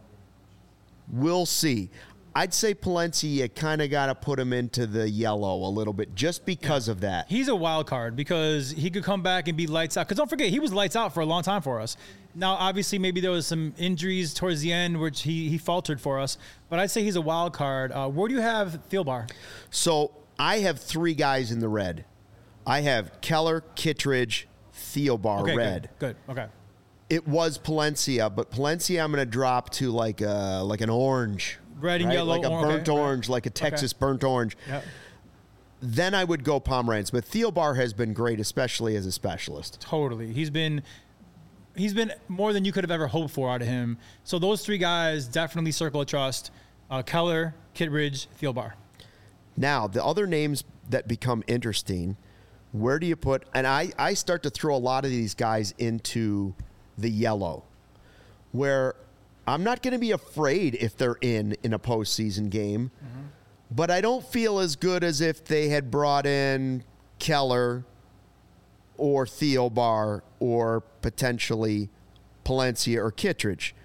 We'll see. I'd say Palencia, kind of got to put him into the yellow a little bit just because of that. He's a wild card because he could come back and be lights out. Because don't forget, he was lights out for a long time for us. Now, obviously, maybe there was some injuries towards the end, which he faltered for us. But I'd say he's a wild card. Where do you have Thielbar? So I have 3 guys in the red. I have Keller, Kittredge, Thielbar, red. Good. Okay. It was Palencia, but Palencia I'm going to drop to like an orange. Red and yellow. Like a burnt orange, like a Texas burnt orange. Yep. Then I would go Pomerantz. But Thielbar has been great, especially as a specialist. Totally. He's been more than you could have ever hoped for out of him. So those 3 guys definitely circle of trust. Keller, Kittredge, Thielbar. Now, the other names that become interesting, where do you put, and I start to throw a lot of these guys into the yellow, where I'm not going to be afraid if they're in a postseason game, but I don't feel as good as if they had brought in Keller or Thielbar or potentially Palencia or Kittredge.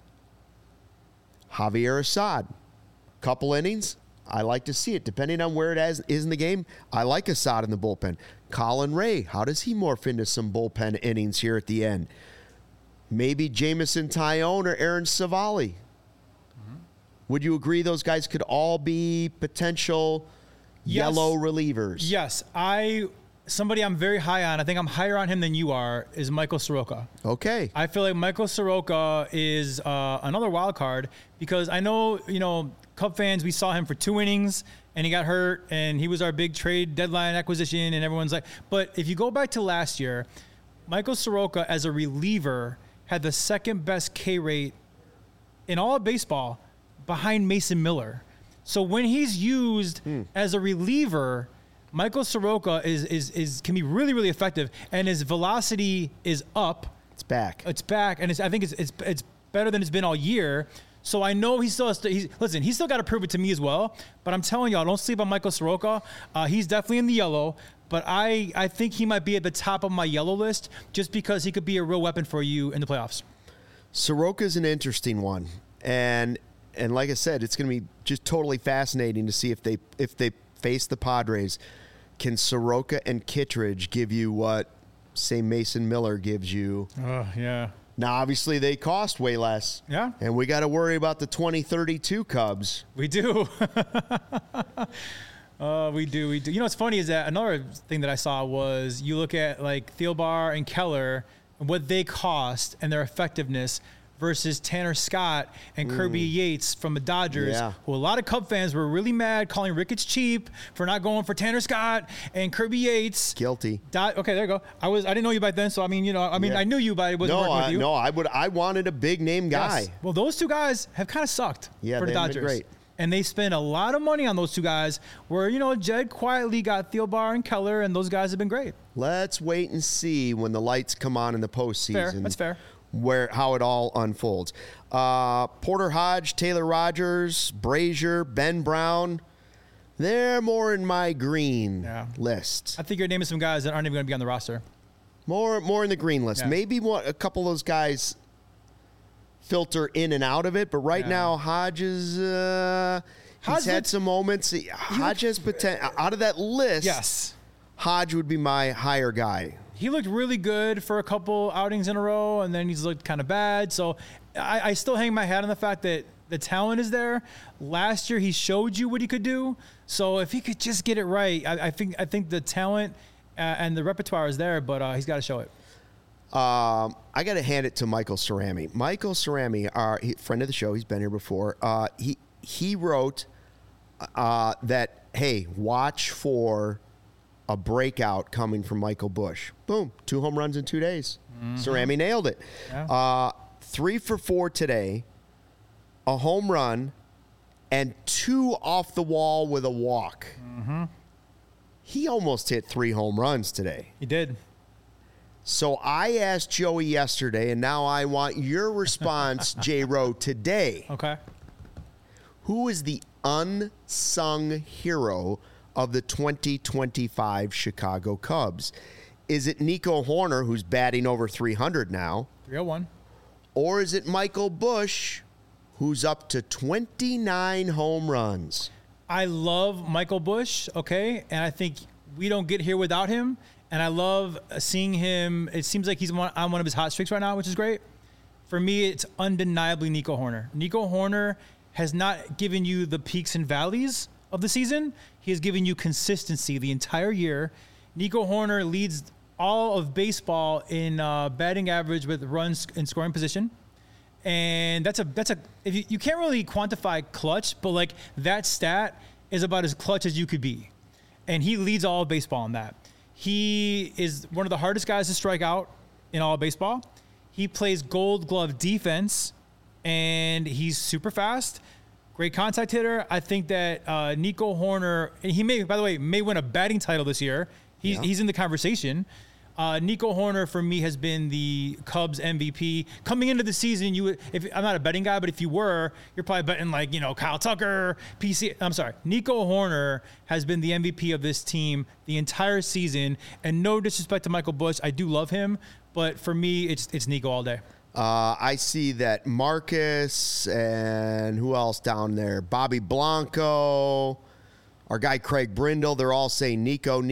Javier Assad, couple innings. I like to see it, depending on where it is in the game. I like Assad in the bullpen. Colin Ray, how does he morph into some bullpen innings here at the end? Maybe Jameson Tyone or Aaron Savali. Would you agree those guys could all be potential yellow relievers? Yes. Somebody I'm very high on, I think I'm higher on him than you are, is Michael Soroka. Okay. I feel like Michael Soroka is another wild card because I know, Cub fans, we saw him for 2 innings and he got hurt and he was our big trade deadline acquisition and everyone's like, but if you go back to last year, Michael Soroka as a reliever had the second best K rate in all of baseball behind Mason Miller. So when he's used as a reliever, Michael Soroka can be really, really effective, and his velocity is up. It's back. It's back, and I think it's better than it's been all year. So I know he still has to. He's still got to prove it to me as well. But I'm telling y'all, don't sleep on Michael Soroka. He's definitely in the yellow, but I think he might be at the top of my yellow list just because he could be a real weapon for you in the playoffs. Soroka's an interesting one, and like I said, it's going to be just totally fascinating to see if they face the Padres. Can Soroka and Kittredge give you what, say, Mason Miller gives you? Yeah. Now, obviously, they cost way less. Yeah. And we got to worry about the 2032 Cubs. We do. We do. You know what's funny is that another thing that I saw was you look at like Thielbar and Keller and what they cost and their effectiveness versus Tanner Scott and Kirby Yates from the Dodgers, who a lot of Cub fans were really mad, calling Ricketts cheap for not going for Tanner Scott and Kirby Yates. Guilty. Okay, there you go. I didn't know you back then, so I mean, I knew you, but I wasn't working with you. No, I wanted a big name guy. Yes. Well, those two guys have kind of sucked for the Dodgers. Been great. And they spent a lot of money on those two guys where, Jed quietly got Thielbar and Keller, and those guys have been great. Let's wait and see when the lights come on in the postseason. Fair. That's fair. How it all unfolds. Porter Hodge, Taylor Rogers, Brazier, Ben Brown, they're more in my green list. I think you're naming some guys that aren't even going to be on the roster. More in the green list. Yeah. Maybe a couple of those guys filter in and out of it, but right now Hodges, he's had some moments. Hodge has potential. Out of that list, yes, Hodge would be my higher guy. He looked really good for a couple outings in a row, and then he's looked kind of bad. So I still hang my hat on the fact that the talent is there. Last year, he showed you what he could do. So if he could just get it right, I think the talent and the repertoire is there, but he's got to show it. I got to hand it to Michael Cerami. Michael Cerami, friend of the show, he's been here before. He wrote that, hey, watch for a breakout coming from Michael Busch. Boom, 2 home runs in 2 days. Cerami nailed it. Yeah. 3 for 4 today, a home run, and 2 off the wall with a walk. He almost hit 3 home runs today. He did. So I asked Joey yesterday, and now I want your response, J-Row, today. Okay. Who is the unsung hero of the 2025 Chicago Cubs? Is it Nico Hoerner, who's batting over 300 now? 301. Or is it Michael Busch, who's up to 29 home runs? I love Michael Busch, okay? And I think we don't get here without him. And I love seeing him. It seems like he's on one of his hot streaks right now, which is great. For me, it's undeniably Nico Hoerner. Nico Hoerner has not given you the peaks and valleys of the season. He has given you consistency the entire year. Nico Hoerner leads all of baseball in batting average with runs in scoring position. And that's if you can't really quantify clutch, but like that stat is about as clutch as you could be. And he leads all of baseball in that. He is one of the hardest guys to strike out in all of baseball. He plays Gold Glove defense, and he's super fast. Great contact hitter. I think that Nico Hoerner, he may, by the way, may win a batting title this year. He's in the conversation. Nico Hoerner, for me, has been the Cubs MVP. Coming into the season, I'm not a betting guy, but if you were, you're probably betting Kyle Tucker, PC. I'm sorry. Nico Hoerner has been the MVP of this team the entire season. And no disrespect to Michael Busch, I do love him, but for me, it's Nico all day. I see that Marcus and who else down there? Bobby Blanco, our guy Craig Brindle. They're all saying Nico.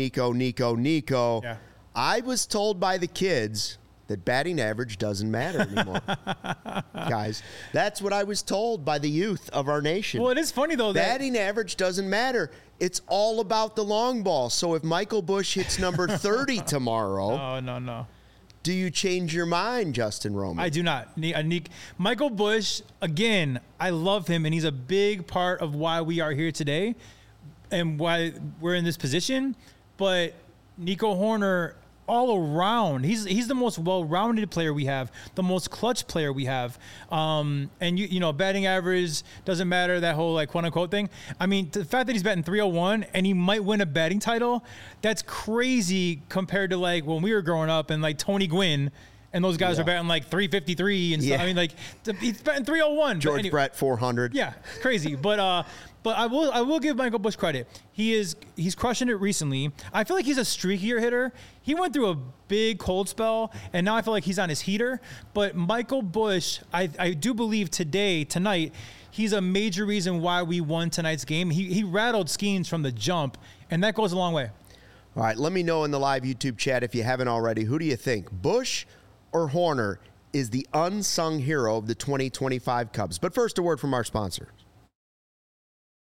Yeah. I was told by the kids that batting average doesn't matter anymore. Guys, that's what I was told by the youth of our nation. Well, it is funny, though. Batting average doesn't matter. It's all about the long ball. So if Michael Busch hits number 30 tomorrow. Oh, no. Do you change your mind, Justin Roman? I do not. Michael Busch, again, I love him, and he's a big part of why we are here today and why we're in this position. But Nico Hoerner, all around, he's the most well-rounded player we have, the most clutch player we have. And batting average doesn't matter, that whole quote-unquote thing. I mean, the fact that he's batting 301 and he might win a batting title, that's crazy compared to when we were growing up and Tony Gwynn and those guys are batting 353 and stuff. Yeah. I mean, he's batting 301. George Brett 400. Yeah, crazy. But I will give Michael Busch credit. He's crushing it recently. I feel like he's a streakier hitter. He went through a big cold spell, and now I feel like he's on his heater. But Michael Busch, I do believe tonight, he's a major reason why we won tonight's game. He rattled Skeens from the jump, and that goes a long way. All right, let me know in the live YouTube chat if you haven't already. Who do you think, Busch or Hoerner, is the unsung hero of the 2025 Cubs? But first, a word from our sponsor.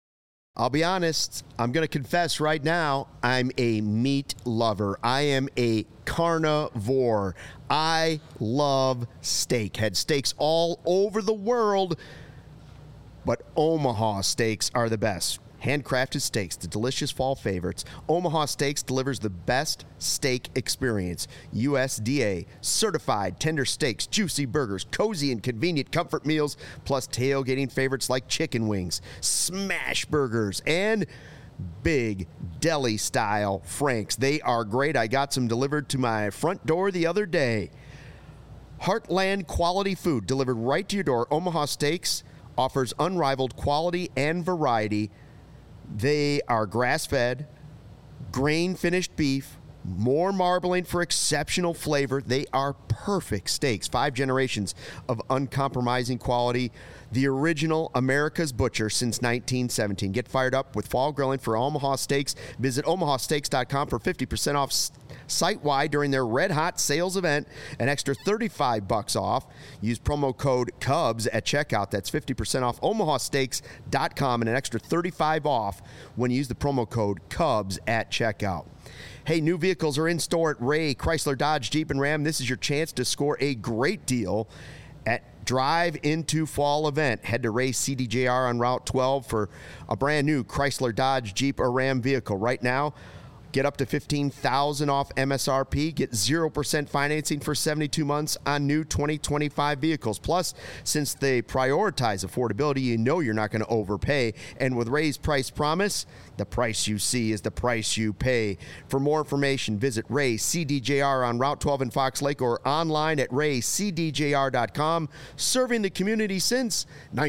I'll be honest, I'm going to confess right now, I'm a meat lover. I am a carnivore. I love steak. Had steaks all over the world, but Omaha steaks are the best. Handcrafted steaks, the delicious fall favorites. Omaha Steaks delivers the best steak experience. USDA certified tender steaks, juicy burgers, cozy and convenient comfort meals, plus tailgating favorites like chicken wings, smash burgers, and big deli style franks. They are great. I got some delivered to my front door the other day. Heartland quality food delivered right to your door. Omaha Steaks offers unrivaled quality and variety. They are grass-fed, grain-finished beef, more marbling for exceptional flavor. They are perfect steaks. 5 generations of uncompromising quality. The original America's Butcher since 1917. Get fired up with fall grilling for Omaha Steaks. Visit omahasteaks.com for 50% off site-wide during their Red Hot sales event. An extra $35 off. Use promo code CUBS at checkout. That's 50% off omahasteaks.com and an extra $35 off when you use the promo code CUBS at checkout. Hey, new vehicles are in store at Ray Chrysler, Dodge, Jeep, and Ram. This is your chance to score a great deal at Drive Into Fall event. Head to Ray CDJR on Route 12 for a brand new Chrysler, Dodge, Jeep, or Ram vehicle. Right now, get up to $15,000 off MSRP. Get 0% financing for 72 months on new 2025 vehicles. Plus, since they prioritize affordability, you know you're not going to overpay. And with Ray's price promise, the price you see is the price you pay. For more information, visit Ray CDJR on Route 12 in Fox Lake or online at raycdjr.com. Serving the community since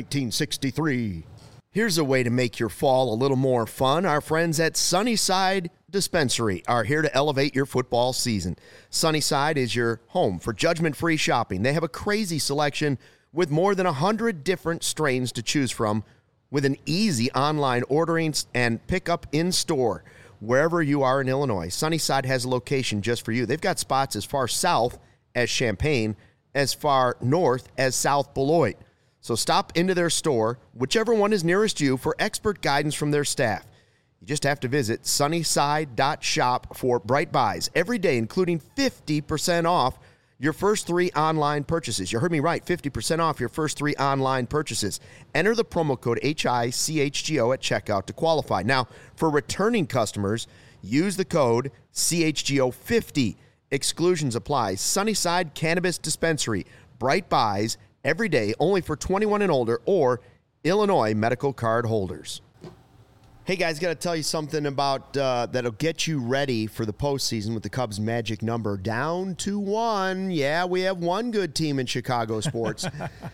1963. Here's a way to make your fall a little more fun. Our friends at Sunnyside Dispensary are here to elevate your football season. Sunnyside is your home for judgment-free shopping. They have a crazy selection with more than 100 different strains to choose from, with an easy online ordering and pickup in store wherever you are in Illinois. Sunnyside has a location just for you. They've got spots as far south as Champaign, as far north as South Beloit. So stop into their store, whichever one is nearest you, for expert guidance from their staff. You just have to visit sunnyside.shop for bright buys every day, including 50% off your first 3 online purchases. You heard me right, 50% off your first 3 online purchases. Enter the promo code HICHGO at checkout to qualify. Now, for returning customers, use the code CHGO50. Exclusions apply. Sunnyside Cannabis Dispensary. Bright buys every day, only for 21 and older or Illinois medical card holders. Hey guys, got to tell you something about that'll get you ready for the postseason with the Cubs' magic number down to 1. Yeah, we have one good team in Chicago sports.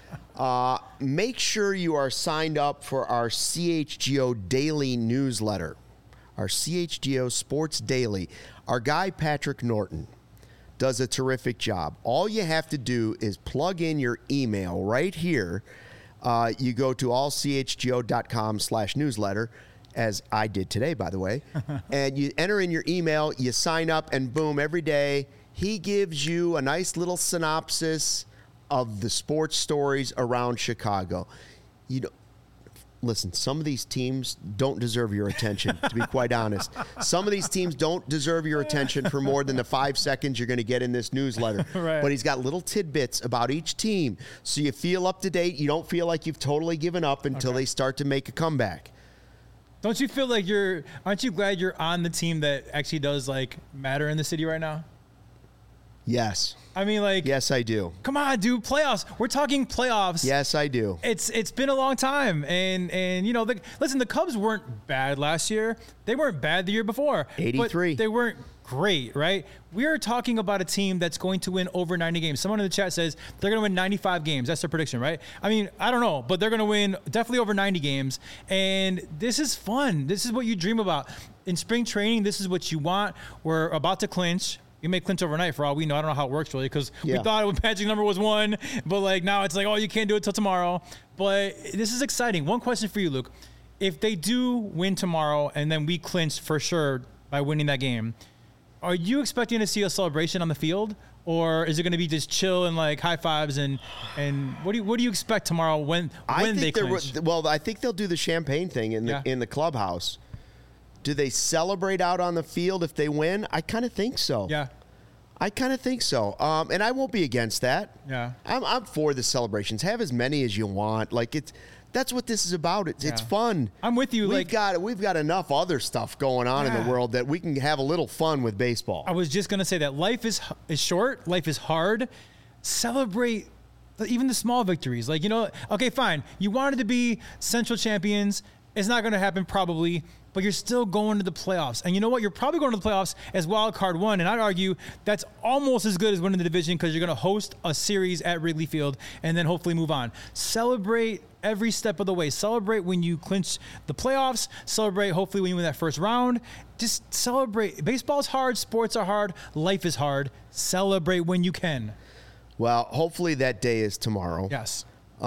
Make sure you are signed up for our CHGO Daily newsletter, our CHGO Sports Daily. Our guy, Patrick Norton, does a terrific job. All you have to do is plug in your email right here. You go to allchgo.com/newsletter, as I did today, by the way, and you enter in your email, you sign up, and boom, every day he gives you a nice little synopsis of the sports stories around Chicago. Listen, some of these teams don't deserve your attention, to be quite honest. Some of these teams don't deserve your attention for more than the 5 seconds you're going to get in this newsletter. Right. But he's got little tidbits about each team, so you feel up to date. You don't feel like you've totally given up until they start to make a comeback. Don't you feel like aren't you glad you're on the team that actually does matter in the city right now? Yes. I mean, yes, I do. Come on, dude, playoffs. We're talking playoffs. Yes, I do. It's been a long time, and listen, the Cubs weren't bad last year. They weren't bad the year before. 83. But they weren't great, right? We are talking about a team that's going to win over 90 games. Someone in the chat says they're going to win 95 games. That's their prediction, right? I mean, I don't know, but they're going to win definitely over 90 games, and this is fun. This is what you dream about. In spring training, this is what you want. We're about to clinch. You may clinch overnight for all we know. I don't know how it works really because we thought magic number was 1, but now it's you can't do it till tomorrow. But this is exciting. One question for you, Luke. If they do win tomorrow and then we clinch for sure by winning that game, Are you expecting to see a celebration on the field, or is it going to be just chill and like high fives and what do you expect tomorrow when they clinch? Well, I think they'll do the champagne thing in the clubhouse. Do they celebrate out on the field if they win? I kind of think so. Yeah. I kind of think so. And I won't be against that. Yeah. I'm for the celebrations. Have as many as you want. Like that's what this is about. It's fun. I'm with you. We've got enough other stuff going on in the world that we can have a little fun with baseball. I was just going to say that life is short. Life is hard. Celebrate even the small victories. Like, okay, fine. You wanted to be Central champions. It's not going to happen probably, but you're still going to the playoffs. And you know what? You're probably going to the playoffs as wild card one. And I'd argue that's almost as good as winning the division because you're going to host a series at Wrigley Field and then hopefully move on. Celebrate every step of the way. Celebrate when you clinch the playoffs. Celebrate hopefully when you win that first round. Just celebrate. Baseball's hard. Sports are hard. Life is hard. Celebrate when you can. Well, hopefully that day is tomorrow. Yes.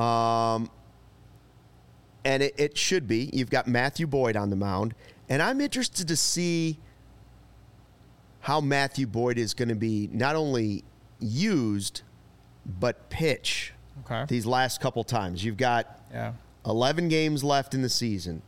And it should be. You've got Matthew Boyd on the mound. And I'm interested to see how Matthew Boyd is going to be not only used, but pitch these last couple times. You've got 11 games left in the season.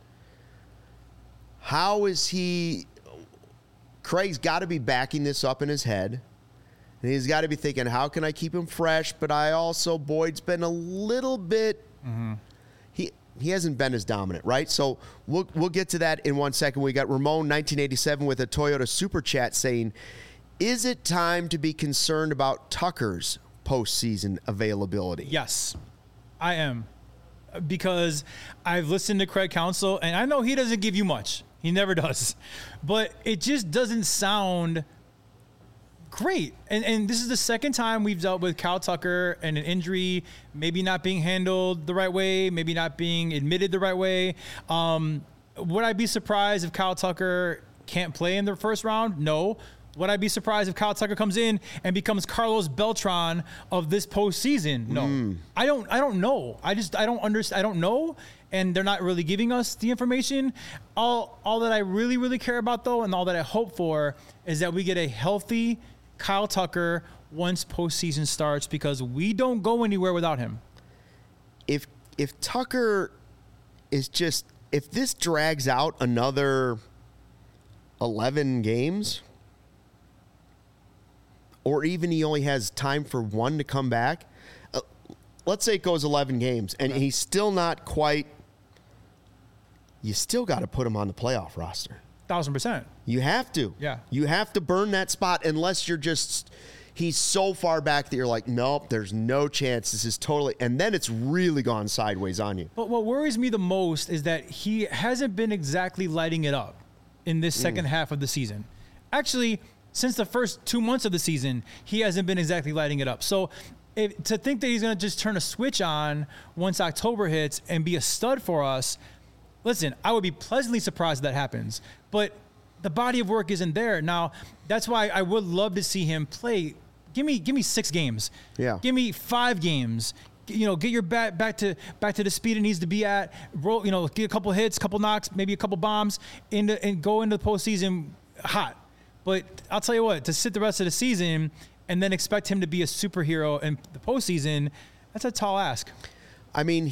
How is he? Craig's got to be backing this up in his head. And he's got to be thinking, how can I keep him fresh? But Boyd's been a little bit... Mm-hmm. He hasn't been as dominant, right? So we'll get to that in 1 second. We got Ramon 1987 with a Toyota Super Chat saying, is it time to be concerned about Tucker's postseason availability? Yes, I am. Because I've listened to Craig Counsell, and I know he doesn't give you much. He never does. But it just doesn't sound great. And this is the second time we've dealt with Kyle Tucker and an injury, maybe not being handled the right way, maybe not being admitted the right way. Would I be surprised if Kyle Tucker can't play in the first round? No. Would I be surprised if Kyle Tucker comes in and becomes Carlos Beltran of this postseason? No. I don't know. I don't understand. I don't know. And they're not really giving us the information. All that I really, really care about, though, and all that I hope for is that we get a healthy Kyle Tucker once postseason starts, because we don't go anywhere without him. If Tucker is if this drags out another 11 games, or even he only has time for one to come back, let's say it goes 11 games and he's still not quite, you still got to put him on the playoff roster. 1,000%. You have to. Yeah. You have to burn that spot unless he's so far back that you're like, nope, there's no chance. This is totally, and then it's really gone sideways on you. But what worries me the most is that he hasn't been exactly lighting it up in this second half of the season. Actually, since the first 2 months of the season, he hasn't been exactly lighting it up. So to think that he's going to just turn a switch on once October hits and be a stud for us, listen, I would be pleasantly surprised if that happens. But the body of work isn't there. Now, that's why I would love to see him play. Give me 6 games. Yeah. Give me 5 games. Get your bat back to the speed it needs to be at. Roll, get a couple hits, couple knocks, maybe a couple bombs, and go into the postseason hot. But I'll tell you what, to sit the rest of the season and then expect him to be a superhero in the postseason, that's a tall ask. I mean,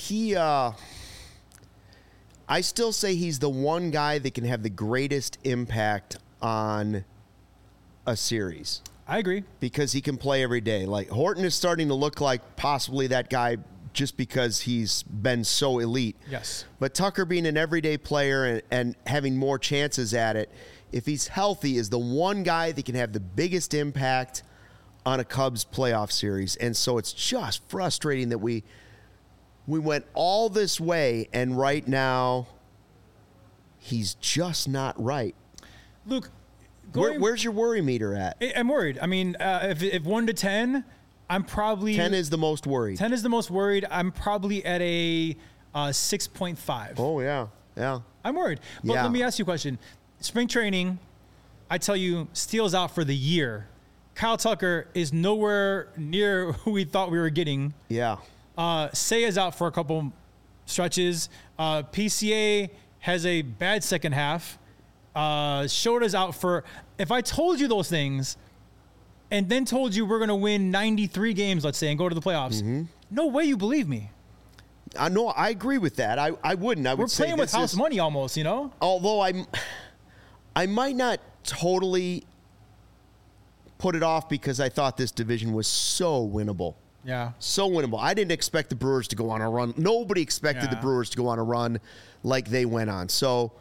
I still say he's the one guy that can have the greatest impact on a series. I agree. Because he can play every day. Like, Horton is starting to look like possibly that guy just because he's been so elite. Yes. But Tucker being an everyday player and having more chances at it, if he's healthy, is the one guy that can have the biggest impact on a Cubs playoff series. And so it's just frustrating that we went all this way, and right now he's just not right. Luke, where's your worry meter at? I'm worried. I mean, if 1 to 10, I'm probably 10 is the most worried. 10 is the most worried. I'm probably at a 6.5. Oh yeah. I'm worried. But let me ask you a question. Spring training, I tell you, Steele's out for the year. Kyle Tucker is nowhere near who we thought we were getting. Yeah. Seiya's out for a couple stretches. PCA has a bad second half. Shota's out for. If I told you those things, and then told you we're going to win 93 games, let's say, and go to the playoffs, no way you believe me. I know. I agree with that. I wouldn't. I would say We're playing with house money almost, you know? Although I might not totally put it off because I thought this division was so winnable. Yeah. So winnable. I didn't expect the Brewers to go on a run. Nobody expected the Brewers to go on a run like they went on. So,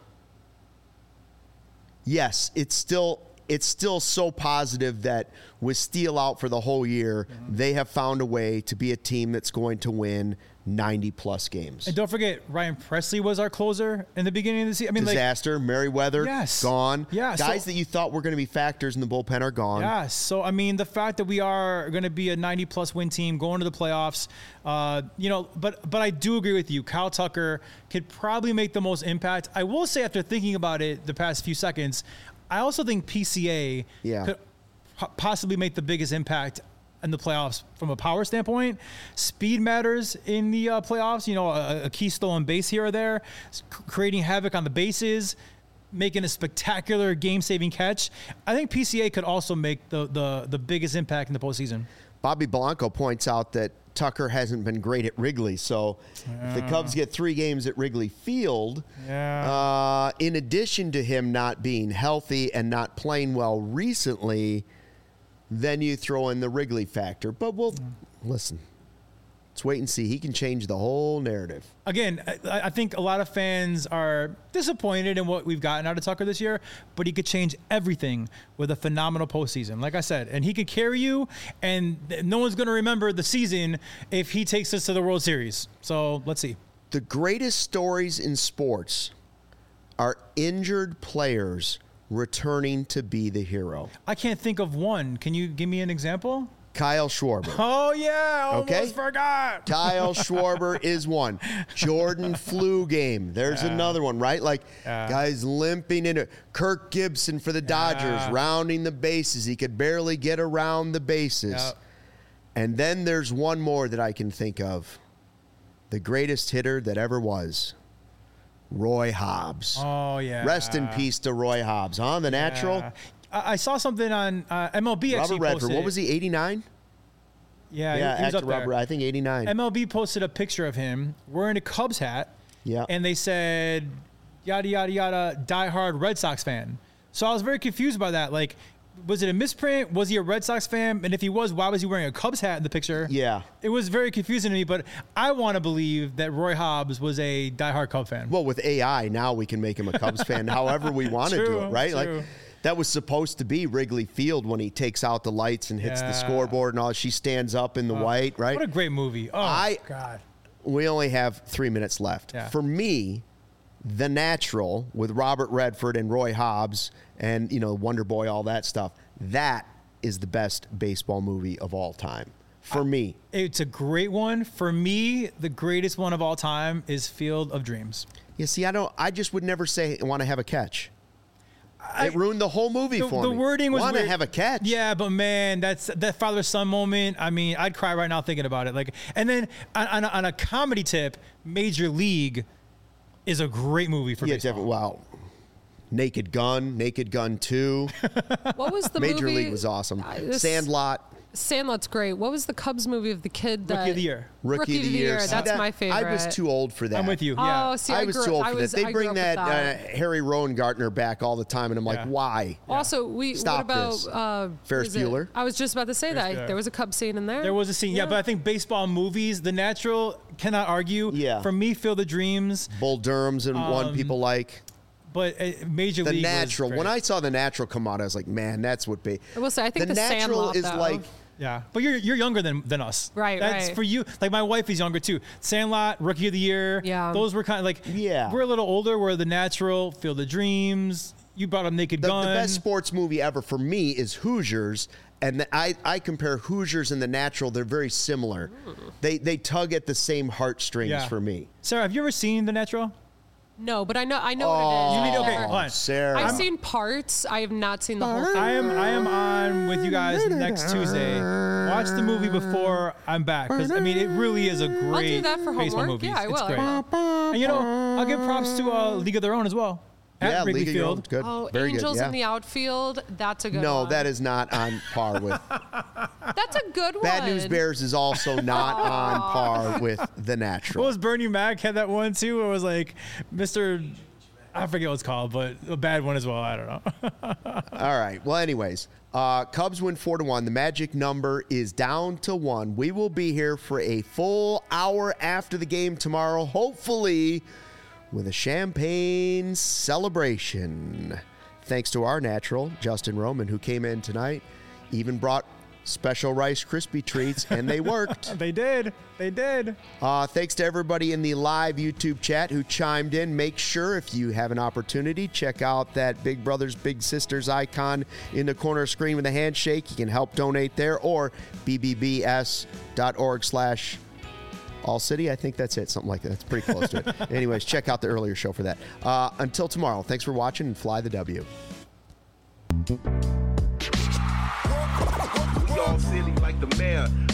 yes, it's still so positive that with Steele out for the whole year, they have found a way to be a team that's going to win 90-plus games. And don't forget, Ryan Presley was our closer in the beginning of the season. I mean, Disaster, Merriweather, gone. Yeah, Guys that you thought were going to be factors in the bullpen are gone. Yeah, so, I mean, the fact that we are going to be a 90-plus win team going to the playoffs, but I do agree with you. Kyle Tucker could probably make the most impact. I will say, after thinking about it the past few seconds, I also think PCA could possibly make the biggest impact in the playoffs from a power standpoint. Speed matters in the playoffs. You know, a key stolen base here or there, creating havoc on the bases, making a spectacular game-saving catch. I think PCA could also make the biggest impact in the postseason. Bobby Blanco points out that Tucker hasn't been great at Wrigley. So if the Cubs get 3 games at Wrigley Field, in addition to him not being healthy and not playing well recently, then you throw in the Wrigley factor. But we'll listen. Let's wait and see. He can change the whole narrative. Again, I think a lot of fans are disappointed in what we've gotten out of Tucker this year, but he could change everything with a phenomenal postseason, like I said. And he could carry you, and no one's going to remember the season if he takes us to the World Series. So let's see. The greatest stories in sports are injured players returning to be the hero. I can't think of one. Can you give me an example? Kyle Schwarber. Oh, yeah. Almost forgot. Kyle Schwarber is one. Jordan flu game. There's another one, right? Like, guys limping into Kirk Gibson for the Dodgers, rounding the bases. He could barely get around the bases. And then there's one more that I can think of. The greatest hitter that ever was. Roy Hobbs. Oh, yeah. Rest in peace to Roy Hobbs, huh? The natural. I saw something on MLB actually Robert Redford. posted. What was he, 89? Yeah, he was up there. Robert, I think 89. MLB posted a picture of him wearing a Cubs hat. Yeah. And they said, yada, yada, yada, diehard Red Sox fan. So I was very confused by that. Like, was it a misprint? Was he a Red Sox fan? And if he was, why was he wearing a Cubs hat in the picture? Yeah. It was very confusing to me, but I want to believe that Roy Hobbs was a diehard Cub fan. Well, with AI, now we can make him a Cubs fan however we want to do it, right? True. Like, that was supposed to be Wrigley Field when he takes out the lights and hits the scoreboard and all. She stands up in the white, right? What a great movie. Oh, God. We only have 3 minutes left. Yeah. For me, The Natural with Robert Redford and Roy Hobbs and, Wonder Boy, all that stuff, that is the best baseball movie of all time. For me. It's a great one. For me, the greatest one of all time is Field of Dreams. You see, I just would never say I want to have a catch. It ruined the whole movie for me. The wording was want weird. to have a catch. Yeah, but man, that father-son moment. I mean, I'd cry right now thinking about it. Like, and then on a comedy tip, Major League is a great movie for baseball. Wow. Naked Gun 2. What was the Major movie? League was awesome. Sandlot. Sandlot's great. What was the Cubs movie of the kid that... Rookie of the Year. Rookie of the Year. See, That's my favorite. I was too old for that. I'm with you. Yeah. Oh, see, I was too old for that. They I bring grew up with that Harry Rowengartner back all the time, and I'm like, why? Also, Stop what about this. Ferris Bueller? I was just about to say that. There was a Cubs scene in there. There was a scene, but I think baseball movies, The Natural, cannot argue. Yeah. For me, Field of Dreams. Bull Durham's and one people like. But Major League The Natural. was great. When I saw The Natural come out, I was like, man, that's what I will say, I think the Natural Sandlot, is though. like... Yeah, but you're younger than us. Right, That's right. for you. Like, my wife is younger, too. Sandlot, Rookie of the Year. Yeah. Those were kind of like... Yeah. We're a little older. We're The Natural, Field of Dreams. You brought up Naked Gun. The best sports movie ever for me is Hoosiers, and I compare Hoosiers and The Natural. They're very similar. They tug at the same heartstrings for me. Sarah, have you ever seen The Natural? No, but I know what it is. You need- I've okay, never- hold on. Sarah. I've seen parts. I have not seen the whole thing. I am on with you guys next Tuesday. Watch the movie before I'm back, because I mean it really is a great I'll do that for baseball homework. movie. Yeah, I will. It's great. I will. And I'll give props to League of Their Own as well. at Wrigley League of Your Own. Field. Good. Oh, Very Angels good. Yeah. in the outfield. That's a good one. No, that is not on par with. That's a good one. Bad News Bears is also not on par with The Natural. What was Bernie Mac had that one too? Where it was like Mr. I forget what it's called, but a bad one as well. I don't know. All right. Well, anyways, Cubs win 4-1. The magic number is down to 1. We will be here for a full hour after the game tomorrow, hopefully with a champagne celebration. Thanks to our natural, Justin Roman, who came in tonight, even brought special Rice Krispie treats, and they worked. They did. Thanks to everybody in the live YouTube chat who chimed in. Make sure, if you have an opportunity, check out that Big Brothers Big Sisters icon in the corner of the screen with a handshake. You can help donate there, or bbbs.org/allcity. I think that's it, something like that. That's pretty close to it. Anyways, check out the earlier show for that. Until tomorrow, thanks for watching, and fly the W. We all silly like the mayor.